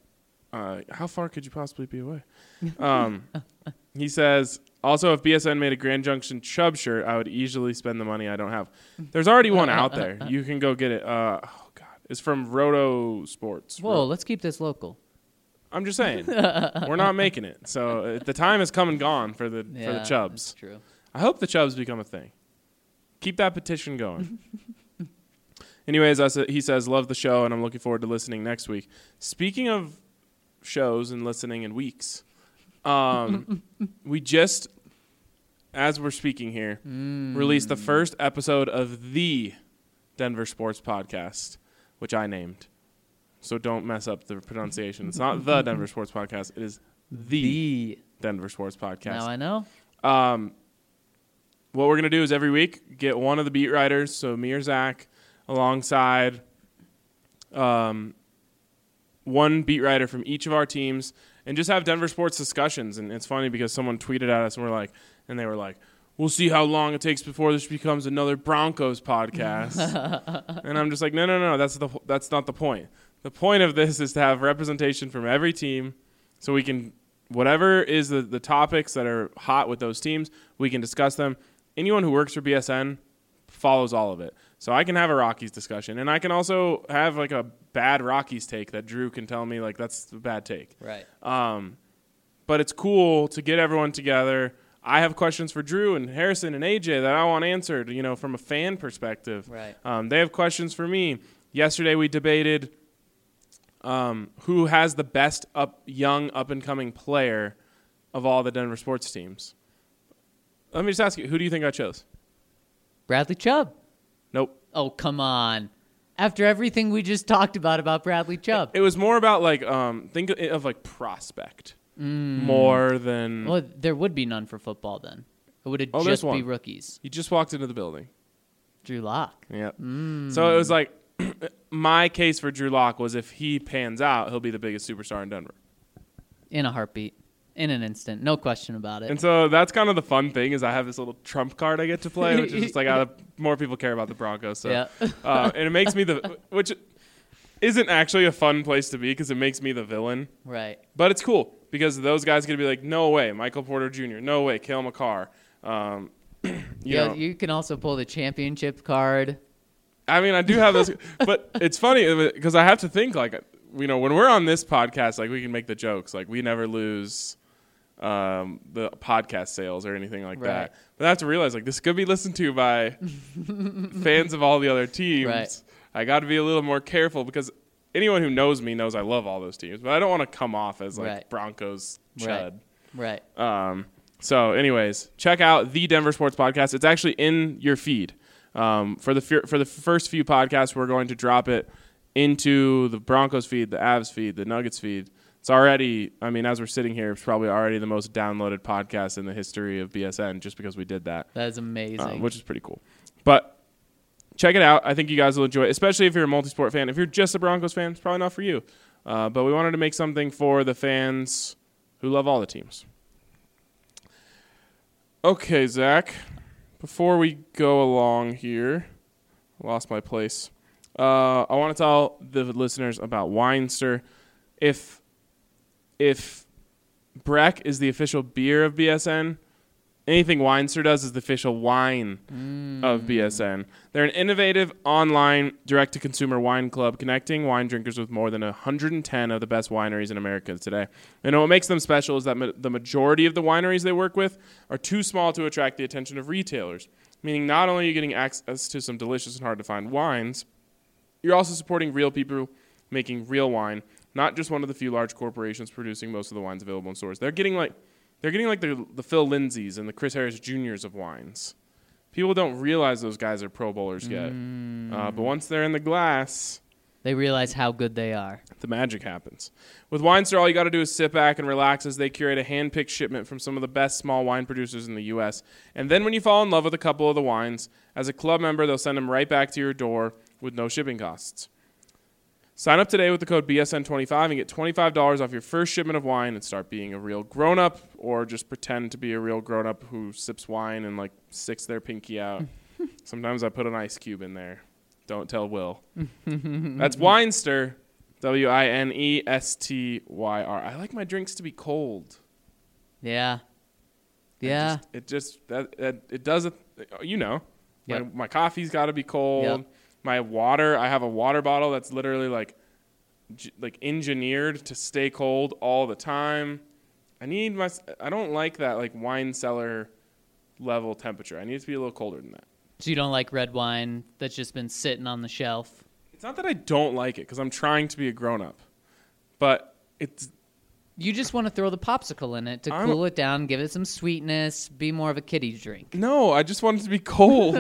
[SPEAKER 1] Uh, how far could you possibly be away? Um, he says, also, if B S N made a Grand Junction Chubb shirt, I would easily spend the money I don't have. There's already one out there. You can go get it. Uh, oh, God. It's from Roto Sports.
[SPEAKER 3] Whoa,
[SPEAKER 1] Ro-
[SPEAKER 3] let's keep this local.
[SPEAKER 1] I'm just saying. We're not making it. So uh, the time has come and gone for the
[SPEAKER 3] Yeah,
[SPEAKER 1] for the Chubbs.
[SPEAKER 3] That's true.
[SPEAKER 1] I hope the Chubbs become a thing. Keep that petition going. Anyways, I sa- he says, love the show, and I'm looking forward to listening next week. Speaking of shows and listening in weeks, um, we just, as we're speaking here,
[SPEAKER 3] Mm.
[SPEAKER 1] released the first episode of the Denver Sports Podcast, which I named. So don't mess up the pronunciation. It's not the Denver Sports Podcast. It is the,
[SPEAKER 3] The.
[SPEAKER 1] Denver Sports Podcast.
[SPEAKER 3] Now I know.
[SPEAKER 1] Um, what we're going to do is every week get one of the beat writers, so me or Zach, alongside um, one beat writer from each of our teams, and just have Denver sports discussions. And it's funny because someone tweeted at us and we're like, and they were like, we'll see how long it takes before this becomes another Broncos podcast. And I'm just like, no, no, no, that's the that's not the point. The point of this is to have representation from every team, so we can, whatever is the, the topics that are hot with those teams, we can discuss them. Anyone who works for B S N follows all of it. So I can have a Rockies discussion, and I can also have like a bad Rockies take that Drew can tell me like that's a bad take.
[SPEAKER 3] Right.
[SPEAKER 1] Um, but it's cool to get everyone together. I have questions for Drew and Harrison and A J that I want answered, you know, from a fan perspective.
[SPEAKER 3] Right.
[SPEAKER 1] Um, they have questions for me. Yesterday we debated um, who has the best up young up-and-coming player of all the Denver sports teams. Let me just ask you, who do you think I chose?
[SPEAKER 3] Bradley Chubb.
[SPEAKER 1] Nope.
[SPEAKER 3] Oh, come on. After everything we just talked about about Bradley Chubb.
[SPEAKER 1] It was more about like um, think of, of like prospect
[SPEAKER 3] Mm.
[SPEAKER 1] more than
[SPEAKER 3] Well, there would be none for football then. It would
[SPEAKER 1] Oh,
[SPEAKER 3] just
[SPEAKER 1] there's
[SPEAKER 3] be
[SPEAKER 1] one.
[SPEAKER 3] rookies.
[SPEAKER 1] he just walked into the building.
[SPEAKER 3] Drew Lock.
[SPEAKER 1] Yep.
[SPEAKER 3] Mm.
[SPEAKER 1] So it was like my case for Drew Lock was if he pans out, he'll be the biggest superstar in Denver.
[SPEAKER 3] In a heartbeat. In an instant. No question about it.
[SPEAKER 1] And so that's kind of the fun thing is I have this little trump card I get to play, which is just like uh, more people care about the Broncos. So,
[SPEAKER 3] Yeah.
[SPEAKER 1] uh, and it makes me the which isn't actually a fun place to be because it makes me the villain.
[SPEAKER 3] Right.
[SPEAKER 1] But it's cool because those guys going to be like, no way, Michael Porter Junior No way, Kale McCarr. Um, you
[SPEAKER 3] yeah,
[SPEAKER 1] know,
[SPEAKER 3] you can also pull the championship card.
[SPEAKER 1] I mean, I do have those, but it's funny because I have to think like, you know, when we're on this podcast, like we can make the jokes, like we never lose um, the podcast sales or anything like
[SPEAKER 3] Right.
[SPEAKER 1] that. But I have to realize like this could be listened to by fans of all the other teams.
[SPEAKER 3] Right.
[SPEAKER 1] I got to be a little more careful because anyone who knows me knows I love all those teams, but I don't want to come off as like
[SPEAKER 3] Right.
[SPEAKER 1] Broncos
[SPEAKER 3] Right.
[SPEAKER 1] chud.
[SPEAKER 3] Right.
[SPEAKER 1] Um, so, anyways, check out the Denver Sports Podcast. It's actually in your feed. Um, for the fir- for the first few podcasts, we're going to drop it into the Broncos feed, the Avs feed, the Nuggets feed. It's already, I mean, as we're sitting here, it's probably already the most downloaded podcast in the history of B S N just because we did that,
[SPEAKER 3] That is amazing.
[SPEAKER 1] um, which is pretty cool. But check it out. I think you guys will enjoy it, especially if you're a multi-sport fan. If you're just a Broncos fan, it's probably not for you. Uh, but we wanted to make something for the fans who love all the teams. Okay, Zach, before we go along here, I lost my place. Uh, I want to tell the listeners about Weinster. If if Breck is the official beer of B S N, anything Weinster does is the official wine of B S N. They're an innovative online direct-to-consumer wine club connecting wine drinkers with more than one hundred ten of the best wineries in America today. And what makes them special is that ma- the majority of the wineries they work with are too small to attract the attention of retailers, meaning not only are you getting access to some delicious and hard-to-find wines, you're also supporting real people making real wine, not just one of the few large corporations producing most of the wines available in stores. They're getting like they're getting like the, the Phil Lindsays and the Chris Harris Juniors of wines. People don't realize those guys are Pro Bowlers yet.
[SPEAKER 3] Mm.
[SPEAKER 1] Uh, but once they're in the glass,
[SPEAKER 3] They realize how good they are.
[SPEAKER 1] the magic happens. With Weinster, all you got to do is sit back and relax as they curate a hand-picked shipment from some of the best small wine producers in the U S. And then when you fall in love with a couple of the wines, as a club member, they'll send them right back to your door with no shipping costs. Sign up today with the code B S N twenty-five and get twenty-five dollars off your first shipment of wine and start being a real grown-up, or just pretend to be a real grown-up who sips wine and like sticks their pinky out. Sometimes I put an ice cube in there. Don't tell Will. That's Weinster. W I N E S T Y R. I like my drinks to be cold.
[SPEAKER 3] Yeah.
[SPEAKER 1] It
[SPEAKER 3] Yeah.
[SPEAKER 1] just, it just that, that it does it. You know, my,
[SPEAKER 3] Yep.
[SPEAKER 1] my coffee's got to be cold.
[SPEAKER 3] Yep.
[SPEAKER 1] My water, I have a water bottle that's literally like, j- like engineered to stay cold all the time. I need my. I don't like that like wine cellar level temperature. I need it to be a little colder than that.
[SPEAKER 3] So you don't like red wine that's just been sitting on the shelf?
[SPEAKER 1] It's not that I don't like it because I'm trying to be a grown up, but it's.
[SPEAKER 3] You just want to throw the popsicle in it to
[SPEAKER 1] I'm-
[SPEAKER 3] cool it down, give it some sweetness, be more of a kiddie drink.
[SPEAKER 1] No, I just want it to be cold.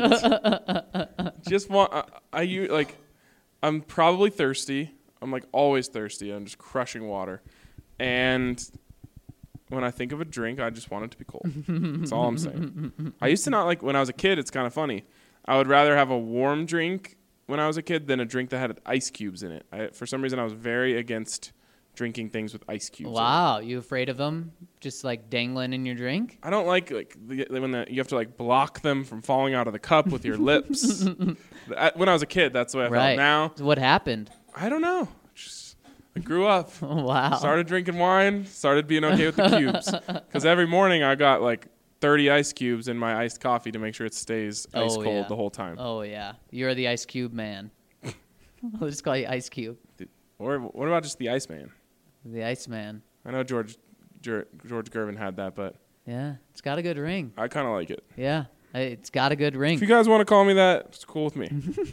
[SPEAKER 1] just want I, I u- like I'm probably thirsty. I'm like always thirsty. I'm just crushing water. And when I think of a drink, I just want it to be cold. That's all I'm saying. I used to not like when I was a kid, it's kind of funny. I would rather have a warm drink when I was a kid than a drink that had ice cubes in it. I, for some reason I was very against drinking things with ice cubes. in it.
[SPEAKER 3] Wow, you afraid of them just like dangling in your drink?
[SPEAKER 1] I don't like like the, when the, you have to like block them from falling out of the cup with your lips. I- when I was a kid, that's the way I
[SPEAKER 3] Right.
[SPEAKER 1] felt. Now,
[SPEAKER 3] So what happened?
[SPEAKER 1] I don't know. Just, I grew up,
[SPEAKER 3] Oh, wow.
[SPEAKER 1] started drinking wine, started being okay with the cubes. Because every morning I got like thirty ice cubes in my iced coffee to make sure it stays ice
[SPEAKER 3] Oh,
[SPEAKER 1] cold
[SPEAKER 3] yeah.
[SPEAKER 1] the whole time.
[SPEAKER 3] Oh, yeah. You're the Ice Cube man. I'll just call you Ice Cube.
[SPEAKER 1] Or what about just the Iceman?
[SPEAKER 3] The Ice Man.
[SPEAKER 1] I know George Ger- George Gervin had that, but
[SPEAKER 3] Yeah, it's got a good ring.
[SPEAKER 1] I kind of like it.
[SPEAKER 3] Yeah, it's got a good ring.
[SPEAKER 1] If you guys want to call me that, it's cool with me.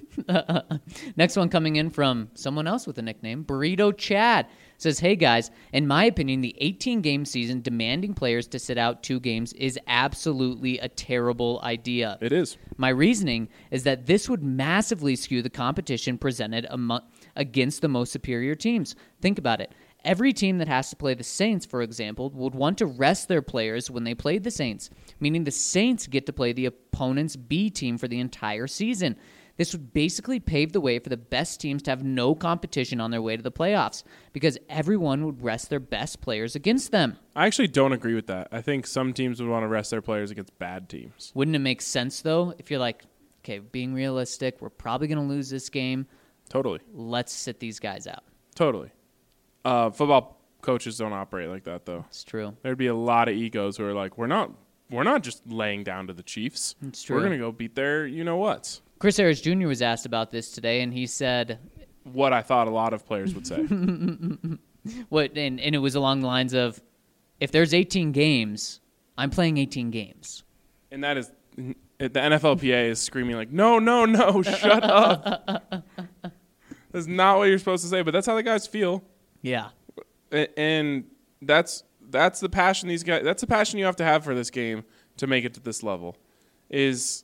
[SPEAKER 3] Next one coming in from someone else with a nickname, Burrito Chad. Says, hey guys, in my opinion, the eighteen-game season demanding players to sit out two games is absolutely a terrible idea.
[SPEAKER 1] It is.
[SPEAKER 3] My reasoning is that this would massively skew the competition presented amo- against the most superior teams. Think about it. Every team that has to play the Saints, for example, would want to rest their players when they played the Saints, meaning the Saints get to play the opponent's B team for the entire season. This would basically pave the way for the best teams to have no competition on their way to the playoffs because everyone would rest their best players against them.
[SPEAKER 1] I actually don't agree with that. I think some teams would want to rest their players against bad teams.
[SPEAKER 3] Wouldn't it make sense, though, if you're like, okay, being realistic, we're probably going to lose this game.
[SPEAKER 1] Totally.
[SPEAKER 3] Let's sit these guys out.
[SPEAKER 1] Totally. Uh, football coaches don't operate like that, though.
[SPEAKER 3] It's true.
[SPEAKER 1] There'd be a lot of egos who are like, we're not we're not just laying down to the Chiefs.
[SPEAKER 3] It's true.
[SPEAKER 1] We're going to go beat their you-know-whats.
[SPEAKER 3] Chris Harris Junior was asked about this today, and he said,
[SPEAKER 1] What I thought a lot of players would say.
[SPEAKER 3] "What?" And, and it was along the lines of, "If there's eighteen games, I'm playing eighteen games."
[SPEAKER 1] And that is, the N F L P A is screaming like, no, no, no, shut up. That's not what you're supposed to say, but that's how the guys feel.
[SPEAKER 3] Yeah,
[SPEAKER 1] A- And that's that's the passion these guys, that's the passion you have to have for this game to make it to this level. Is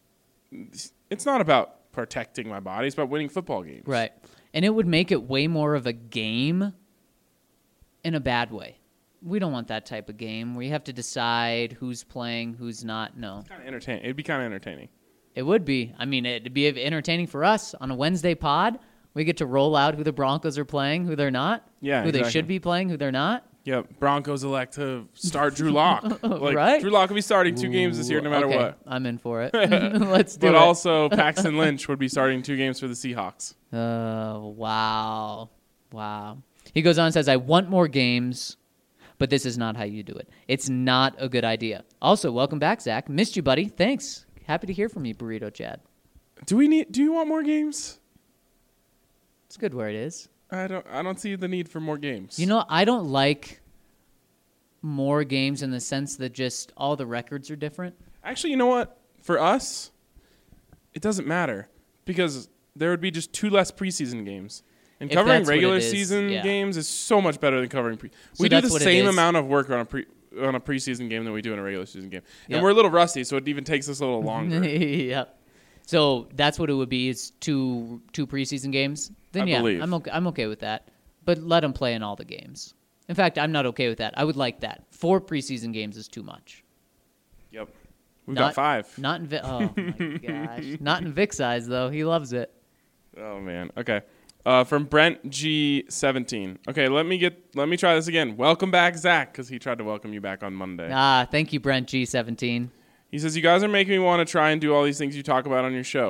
[SPEAKER 1] it's not about protecting my body, it's about winning football games.
[SPEAKER 3] right. And it would make it way more of a game in a bad way. We don't want that type of game where you have to decide who's playing, who's not. No.
[SPEAKER 1] Kind of entertaining. It'd be kind of entertaining.
[SPEAKER 3] It would be. I mean, it'd be entertaining for us on a Wednesday pod. We get to roll out who the Broncos are playing, who they're not.
[SPEAKER 1] Yeah,
[SPEAKER 3] Who they
[SPEAKER 1] exactly.
[SPEAKER 3] should be playing, who they're not.
[SPEAKER 1] Yeah, Broncos elect to start Drew Lock. Like,
[SPEAKER 3] Right.
[SPEAKER 1] Drew Lock will be starting two games this year, no matter
[SPEAKER 3] Okay,
[SPEAKER 1] what.
[SPEAKER 3] I'm in for it. Let's do
[SPEAKER 1] But
[SPEAKER 3] it.
[SPEAKER 1] also, Paxton Lynch would be starting two games for the Seahawks.
[SPEAKER 3] Uh, wow. Wow. He goes on and says, I want more games, but this is not how you do it. It's not a good idea. Also, welcome back, Zach. Missed you, buddy. Thanks. Happy to hear from you, Burrito Chad.
[SPEAKER 1] Do we need? Do you want more games?
[SPEAKER 3] It's good where it is.
[SPEAKER 1] I don't. I don't see the need for more games.
[SPEAKER 3] You know, I don't like more games in the sense that just all the records are different.
[SPEAKER 1] Actually, you know what? For us, it doesn't matter because there would be just two less preseason games. And
[SPEAKER 3] If
[SPEAKER 1] covering
[SPEAKER 3] that's what
[SPEAKER 1] regular
[SPEAKER 3] it is,
[SPEAKER 1] season
[SPEAKER 3] yeah.
[SPEAKER 1] games is so much better than covering pre.
[SPEAKER 3] So
[SPEAKER 1] we do
[SPEAKER 3] that's
[SPEAKER 1] the
[SPEAKER 3] what it
[SPEAKER 1] same
[SPEAKER 3] is.
[SPEAKER 1] amount of work on a pre on a preseason game than we do in a regular season game,
[SPEAKER 3] Yep.
[SPEAKER 1] and we're a little rusty, so it even takes us a little longer.
[SPEAKER 3] Yep. So that's what it would be. Is two two preseason games. Then
[SPEAKER 1] I
[SPEAKER 3] yeah,
[SPEAKER 1] believe.
[SPEAKER 3] I'm okay. I'm okay with that. But let them play in all the games. In fact, I'm not okay with that. I would like that. Four preseason games is too much.
[SPEAKER 1] Yep, we've
[SPEAKER 3] Not-
[SPEAKER 1] got five.
[SPEAKER 3] Not in Vi- oh my gosh. Not in Vic's eyes though. He loves it.
[SPEAKER 1] Oh man. Okay. Uh, from Brent G seventeen. Okay, let me get. Let me try this again. Welcome back, Zach, because he tried to welcome you back on Monday.
[SPEAKER 3] Ah, thank you, Brent G seventeen.
[SPEAKER 1] He says, you guys are making me want to try and do all these things you talk about on your show.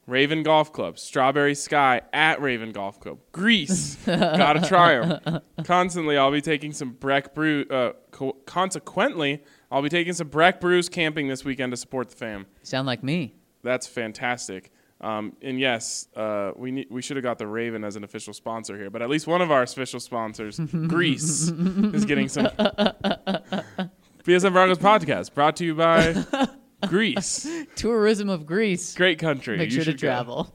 [SPEAKER 1] Raven Golf Club, Strawberry Sky at Raven Golf Club, Greece, gotta try them. Constantly, I'll be taking some Breck Brew. Uh, co- consequently, I'll be taking some Breck Brews camping this weekend to support the fam.
[SPEAKER 3] Sound like me.
[SPEAKER 1] That's fantastic. Um, and yes, uh, we need, we should have got the Raven as an official sponsor here, but at least one of our official sponsors, Greece, is getting some. B S N Broncos podcast brought to you by Greece.
[SPEAKER 3] Tourism of Greece.
[SPEAKER 1] Great country.
[SPEAKER 3] Make
[SPEAKER 1] You
[SPEAKER 3] sure to
[SPEAKER 1] should go.
[SPEAKER 3] travel.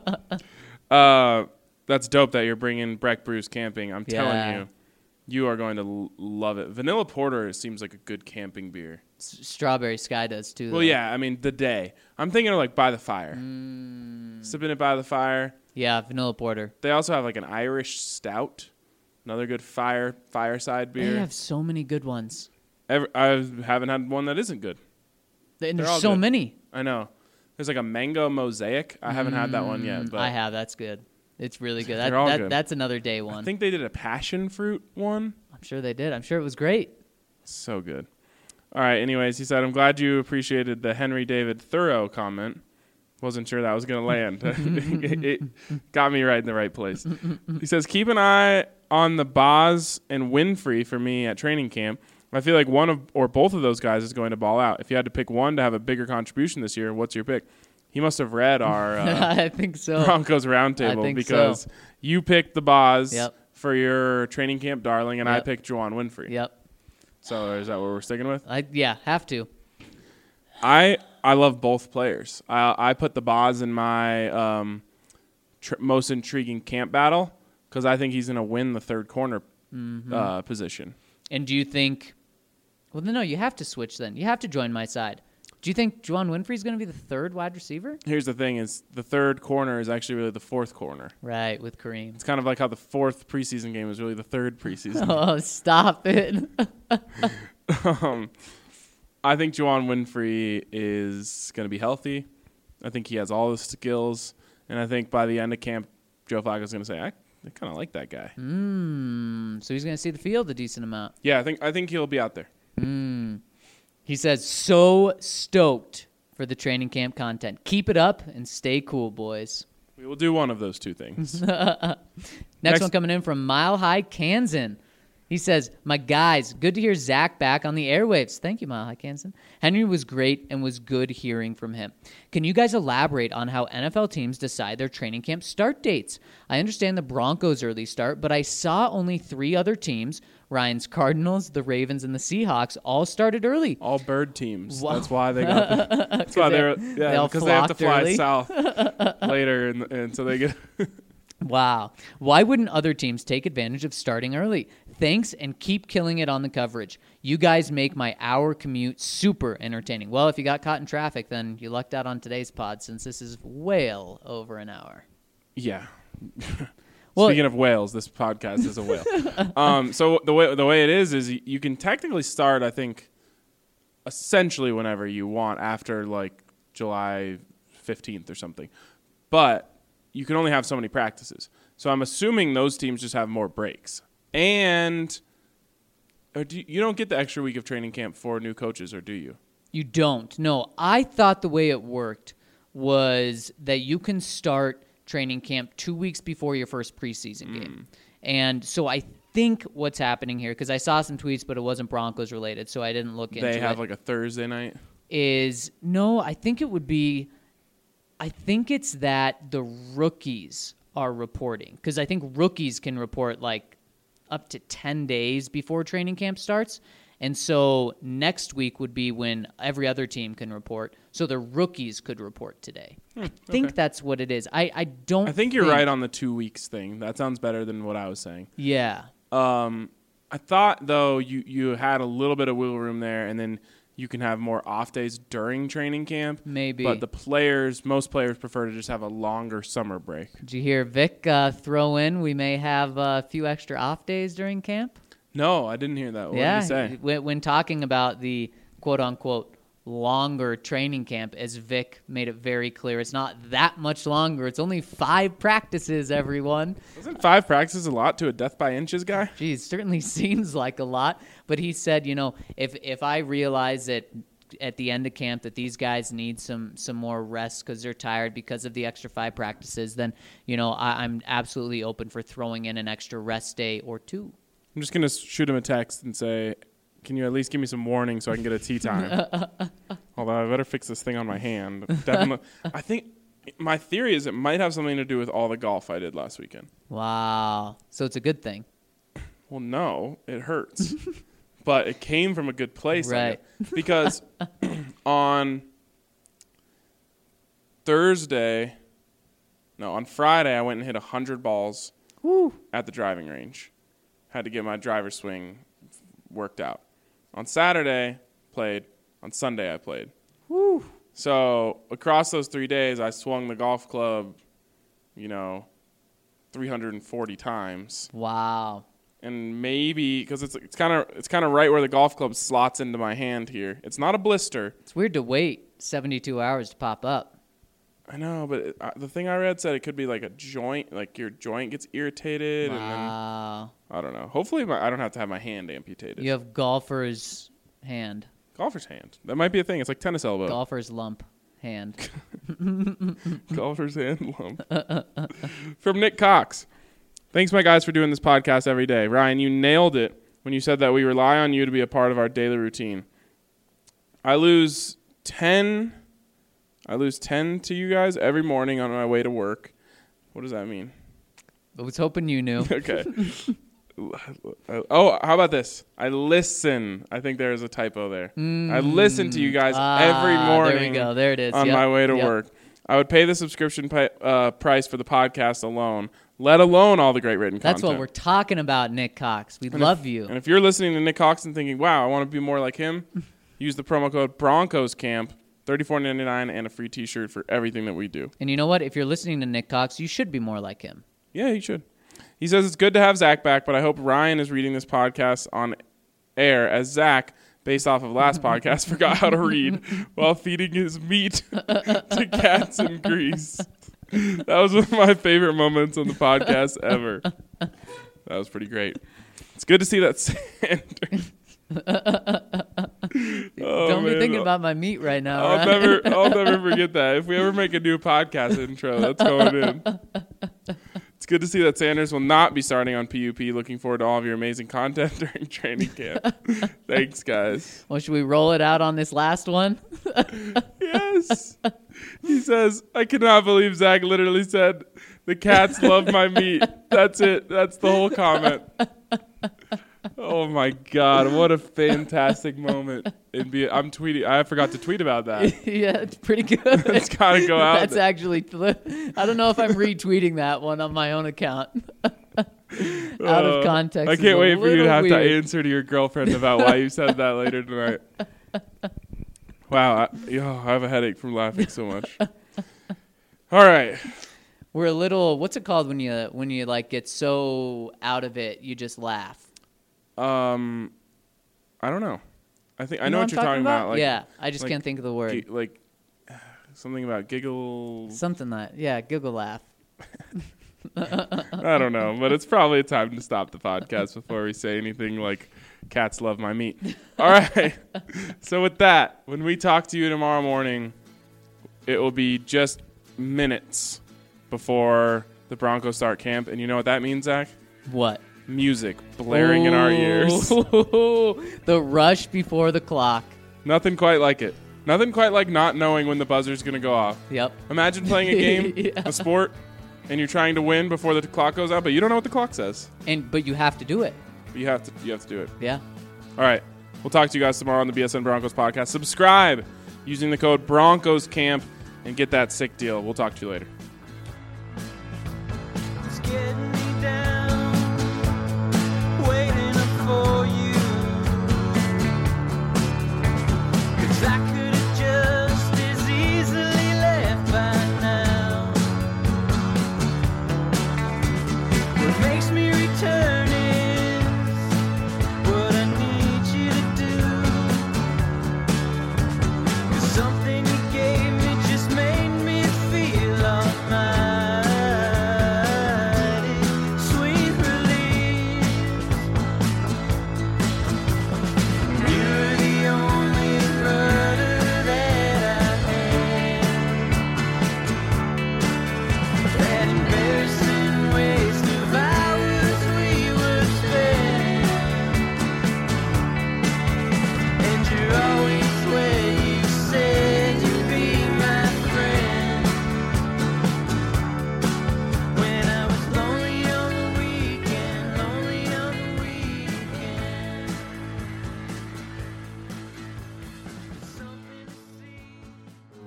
[SPEAKER 1] Uh, that's dope that you're bringing Breck Brews camping. I'm telling
[SPEAKER 3] Yeah.
[SPEAKER 1] you, you are going to l- love it. Vanilla Porter seems like a good camping beer.
[SPEAKER 3] S- Strawberry Sky does too.
[SPEAKER 1] Well,
[SPEAKER 3] though.
[SPEAKER 1] yeah, I mean, the day. I'm thinking of like by the fire.
[SPEAKER 3] Mm.
[SPEAKER 1] Sipping it by the fire.
[SPEAKER 3] Yeah, vanilla porter.
[SPEAKER 1] They also have like an Irish stout. Another good fire fireside beer.
[SPEAKER 3] They have so many good ones.
[SPEAKER 1] Ever, I haven't had one that isn't good.
[SPEAKER 3] And
[SPEAKER 1] They're
[SPEAKER 3] there's
[SPEAKER 1] all
[SPEAKER 3] so
[SPEAKER 1] good.
[SPEAKER 3] many.
[SPEAKER 1] I know. There's like a mango mosaic. I haven't had that one yet, but
[SPEAKER 3] I have. That's good. It's really good. That,
[SPEAKER 1] They're all
[SPEAKER 3] that,
[SPEAKER 1] good.
[SPEAKER 3] That's another day
[SPEAKER 1] I
[SPEAKER 3] one.
[SPEAKER 1] think they did a passion fruit one.
[SPEAKER 3] I'm sure they did. I'm sure it was great.
[SPEAKER 1] So good. All right. Anyways, he said, I'm glad you appreciated the Henry David Thoreau comment. Wasn't sure that was going to land. it, it got me right in the right place. He says, keep an eye on the Boz and Winfrey for me at training camp. I feel like one of or both of those guys is going to ball out. If you had to pick one to have a bigger contribution this year, what's your pick? He must have read our uh,
[SPEAKER 3] I think so.
[SPEAKER 1] Broncos roundtable
[SPEAKER 3] think
[SPEAKER 1] because
[SPEAKER 3] so.
[SPEAKER 1] you picked the Boz
[SPEAKER 3] Yep.
[SPEAKER 1] for your training camp darling, and I
[SPEAKER 3] Yep.
[SPEAKER 1] picked Juwan Winfrey.
[SPEAKER 3] Yep.
[SPEAKER 1] So is that what we're sticking with?
[SPEAKER 3] I yeah, have to.
[SPEAKER 1] I I love both players. I I put the Boz in my um, tr- most intriguing camp battle because I think he's going to win the third corner
[SPEAKER 3] Mm-hmm.
[SPEAKER 1] uh, position.
[SPEAKER 3] And do you think? Well, no, you have to switch then. You have to join my side. Do you think Juwan Winfrey's going to be the third wide receiver?
[SPEAKER 1] Here's the thing: is the third corner is actually really the fourth corner.
[SPEAKER 3] Right, with Kareem.
[SPEAKER 1] It's kind of like how the fourth preseason game is really the third preseason.
[SPEAKER 3] Oh, stop it.
[SPEAKER 1] um, I think Juwan Winfrey is going to be healthy. I think he has all the skills, and I think by the end of camp, Joe Flacco's going to say, "I, I kind of like that guy."
[SPEAKER 3] Mm, so he's going to see the field a decent amount.
[SPEAKER 1] Yeah, I think I think he'll be out there.
[SPEAKER 3] Mm. He says, so stoked for the training camp content. Keep it up and stay cool, boys.
[SPEAKER 1] We will do one of those two things.
[SPEAKER 3] Next,
[SPEAKER 1] Next-
[SPEAKER 3] one coming in from Mile High Kansan. He says, my guys, good to hear Zach back on the airwaves. Thank you, Mile High Kansan. Henry was great and was good hearing from him. Can you guys elaborate on how N F L teams decide their training camp start dates? I understand the Broncos' early start, but I saw only three other teams, Ryan's Cardinals, the Ravens, and the Seahawks, all started early.
[SPEAKER 1] All bird teams.
[SPEAKER 3] Wow.
[SPEAKER 1] That's why they got. The, that's why
[SPEAKER 3] they-
[SPEAKER 1] they're
[SPEAKER 3] they
[SPEAKER 1] yeah
[SPEAKER 3] all
[SPEAKER 1] because they have to
[SPEAKER 3] flocked
[SPEAKER 1] fly
[SPEAKER 3] early.
[SPEAKER 1] south later, and, and so they get.
[SPEAKER 3] Wow. Why wouldn't other teams take advantage of starting early? Thanks, and keep killing it on the coverage. You guys make my hour commute super entertaining. Well, if you got caught in traffic, then you lucked out on today's pod since this is well over an hour.
[SPEAKER 1] Yeah.
[SPEAKER 3] Well-
[SPEAKER 1] Speaking of whales, this podcast is a whale. um, so the way the way it is is you can technically start, I think, essentially whenever you want after like July fifteenth or something, but you can only have so many practices. So I'm assuming those teams just have more breaks, and or do you, you don't get the extra week of training camp for new coaches, or do you?
[SPEAKER 3] You don't. No, I thought the way it worked was that you can start training camp two weeks before your first preseason game. And so I think what's happening here, because I saw some tweets, but it wasn't Broncos related, so I didn't look into it.
[SPEAKER 1] They have like a Thursday night.
[SPEAKER 3] Is no, I think it would be, I think it's that the rookies are reporting, because I think rookies can report like up to ten days before training camp starts. And so next week would be when every other team can report. So the rookies could report today. I think
[SPEAKER 1] okay.
[SPEAKER 3] that's what it is. I, I don't
[SPEAKER 1] I think you're right on the two weeks thing. That sounds better than what I was saying.
[SPEAKER 3] Yeah.
[SPEAKER 1] Um, I thought though you you had a little bit of wiggle room there, and then you can have more off days during training camp.
[SPEAKER 3] Maybe.
[SPEAKER 1] But the players, most players prefer to just have a longer summer break.
[SPEAKER 3] Did you hear Vic uh, throw in we may have a few extra off days during camp?
[SPEAKER 1] No, I didn't hear that. What
[SPEAKER 3] yeah,
[SPEAKER 1] did he say?
[SPEAKER 3] When, when talking about the quote-unquote longer training camp, as Vic made it very clear, it's not that much longer. It's only five practices, everyone.
[SPEAKER 1] Wasn't five practices a lot to a death by inches guy?
[SPEAKER 3] Geez, certainly seems like a lot. But he said, you know, if if I realize that at the end of camp that these guys need some some more rest because they're tired because of the extra five practices, then, you know, I, I'm absolutely open for throwing in an extra rest day or two.
[SPEAKER 1] I'm just going to shoot him a text and say, can you at least give me some warning so I can get a tea time? Although I better fix this thing on my hand. Definitely. I think my theory is it might have something to do with all the golf I did last weekend.
[SPEAKER 3] Wow. So it's a good thing.
[SPEAKER 1] Well, no, it hurts. But it came from a good place.
[SPEAKER 3] Right.
[SPEAKER 1] Because on Thursday, no, on Friday, I went and hit one hundred balls
[SPEAKER 3] Woo.
[SPEAKER 1] at the driving range. Had to get my driver's swing worked out. On Saturday, played. On Sunday, I played.
[SPEAKER 3] Woo.
[SPEAKER 1] So across those three days, I swung the golf club, you know, three hundred forty times.
[SPEAKER 3] Wow.
[SPEAKER 1] And maybe because it's it's kind of it's kind of right where the golf club slots into my hand here. It's not a blister.
[SPEAKER 3] It's weird to wait seventy-two hours to pop up.
[SPEAKER 1] I know, but it, uh, the thing I read said it could be like a joint, like your joint gets irritated,
[SPEAKER 3] Wow.
[SPEAKER 1] and then I don't know. Hopefully, my, I don't have to have my hand amputated.
[SPEAKER 3] You have golfer's hand.
[SPEAKER 1] Golfer's hand. That might be a thing. It's like tennis elbow.
[SPEAKER 3] Golfer's lump hand.
[SPEAKER 1] Golfer's hand lump. From Nick Cox. Thanks, my guys, for doing this podcast every day. Ryan, you nailed it when you said that we rely on you to be a part of our daily routine. I lose ten. I lose ten to you guys every morning on my way to work. What does that mean?
[SPEAKER 3] I was hoping you knew.
[SPEAKER 1] Okay. Oh, how about this? I listen. I think there is a typo there.
[SPEAKER 3] Mm.
[SPEAKER 1] I listen to you guys
[SPEAKER 3] Ah,
[SPEAKER 1] every morning.
[SPEAKER 3] There we go. There it is.
[SPEAKER 1] On
[SPEAKER 3] Yep.
[SPEAKER 1] my way to
[SPEAKER 3] Yep.
[SPEAKER 1] work. I would pay the subscription pi- uh, price for the podcast alone, let alone all the great written
[SPEAKER 3] That's
[SPEAKER 1] content.
[SPEAKER 3] what we're talking about, Nick Cox. We
[SPEAKER 1] And
[SPEAKER 3] love
[SPEAKER 1] if,
[SPEAKER 3] you.
[SPEAKER 1] And if you're listening to Nick Cox and thinking, wow, I want to be more like him, use the promo code Broncos Camp, thirty-four ninety-nine, and a free t-shirt for everything that we do.
[SPEAKER 3] And you know what? If you're listening to Nick Cox, you should be more like him.
[SPEAKER 1] Yeah, you should. He says it's good to have Zach back, but I hope Ryan is reading this podcast on air as Zach, based off of last podcast, forgot how to read while feeding his meat to cats in Greece. That was one of my favorite moments on the podcast ever. That was pretty great. It's good to see that Sanders. Oh,
[SPEAKER 3] Don't be
[SPEAKER 1] man.
[SPEAKER 3] thinking about my meat right now.
[SPEAKER 1] I'll
[SPEAKER 3] right?
[SPEAKER 1] never, I'll never forget that. If we ever make a new podcast intro, that's going in. It's good to see that Sanders will not be starting on P U P. Looking forward to all of your amazing content during training camp. Thanks, guys.
[SPEAKER 3] Well, should we roll it out on this last one?
[SPEAKER 1] Yes. He says, I cannot believe Zach literally said, the cats love my meat. That's it. That's the whole comment. Oh, my God. What a fantastic moment. It'd be, I'm tweeting. I forgot to tweet about that.
[SPEAKER 3] Yeah, it's pretty good.
[SPEAKER 1] It's got to go out.
[SPEAKER 3] That's
[SPEAKER 1] there.
[SPEAKER 3] actually, I don't know if I'm retweeting that one on my own account. Out
[SPEAKER 1] Uh,
[SPEAKER 3] of context.
[SPEAKER 1] I
[SPEAKER 3] is
[SPEAKER 1] can't
[SPEAKER 3] a
[SPEAKER 1] wait for you to
[SPEAKER 3] little
[SPEAKER 1] have
[SPEAKER 3] weird.
[SPEAKER 1] to answer to your girlfriend about why you said that later tonight. Wow. I, yo, I have a headache from laughing so much. All right.
[SPEAKER 3] We're a little, what's it called when you, when you like get so out of it, you just laugh?
[SPEAKER 1] Um, I don't know. I think I
[SPEAKER 3] You
[SPEAKER 1] know,
[SPEAKER 3] know
[SPEAKER 1] what
[SPEAKER 3] I'm
[SPEAKER 1] you're talking about. Like,
[SPEAKER 3] yeah, I just
[SPEAKER 1] like
[SPEAKER 3] can't think of the word.
[SPEAKER 1] gi- like something about giggles.
[SPEAKER 3] Something that, yeah, giggle laugh.
[SPEAKER 1] I don't know, but it's probably time to stop the podcast before we say anything like cats love my meat. All right. So with that, when we talk to you tomorrow morning, it will be just minutes before the Broncos start camp. And you know what that means, Zach?
[SPEAKER 3] What?
[SPEAKER 1] Music blaring in our ears.
[SPEAKER 3] The rush before the clock.
[SPEAKER 1] Nothing quite like it. Nothing quite like not knowing when the buzzer's going to go off.
[SPEAKER 3] Yep.
[SPEAKER 1] Imagine playing a game,
[SPEAKER 3] Yeah.
[SPEAKER 1] a sport, and you're trying to win before the clock goes out, but you don't know what the clock says.
[SPEAKER 3] And but you have to do it.
[SPEAKER 1] You have to you have to do it.
[SPEAKER 3] Yeah.
[SPEAKER 1] All right. We'll talk to you guys tomorrow on the B S N Broncos podcast. Subscribe using the code Broncos Camp and get that sick deal. We'll talk to you later.
[SPEAKER 2] It's getting me down, waiting up for you. 'Cause I could have just as easily left by now. What makes me return is what I need you to do. 'Cause something you gave me just made me feel all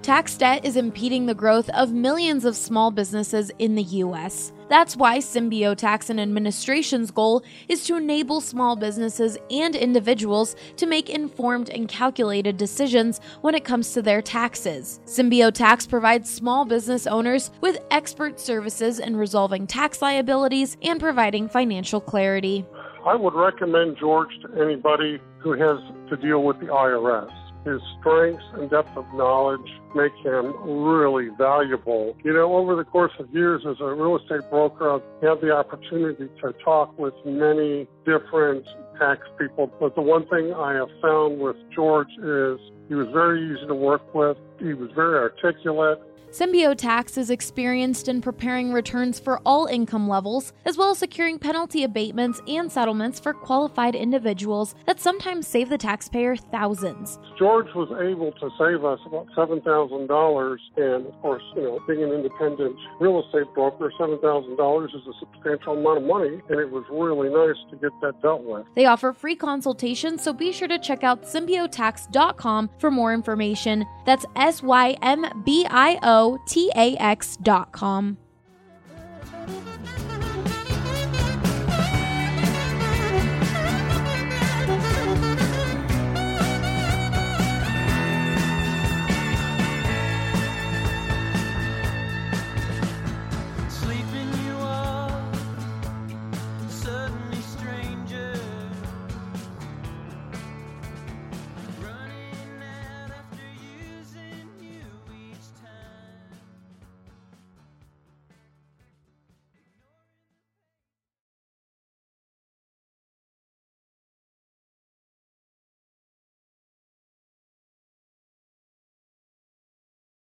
[SPEAKER 6] Tax debt is impeding the growth of millions of small businesses in the U S. That's why Symbio Tax and Administration's goal is to enable small businesses and individuals to make informed and calculated decisions when it comes to their taxes. Symbio Tax provides small business owners with expert services in resolving tax liabilities and providing financial clarity.
[SPEAKER 7] I would recommend George to anybody who has to deal with the I R S. His strengths and depth of knowledge make him really valuable. You know, over the course of years as a real estate broker, I've had the opportunity to talk with many different tax people. But the one thing I have found with George is he was very easy to work with. He was very articulate.
[SPEAKER 6] Symbio Tax is experienced in preparing returns for all income levels, as well as securing penalty abatements and settlements for qualified individuals that sometimes save the taxpayer thousands.
[SPEAKER 7] George was able to save us about seven thousand dollars, and of course, you know, being an independent real estate broker, seven thousand dollars is a substantial amount of money, and it was really nice to get that dealt with.
[SPEAKER 6] They offer free consultations, so be sure to check out symbio tax dot com for more information. That's S Y M B I O T A X dot com.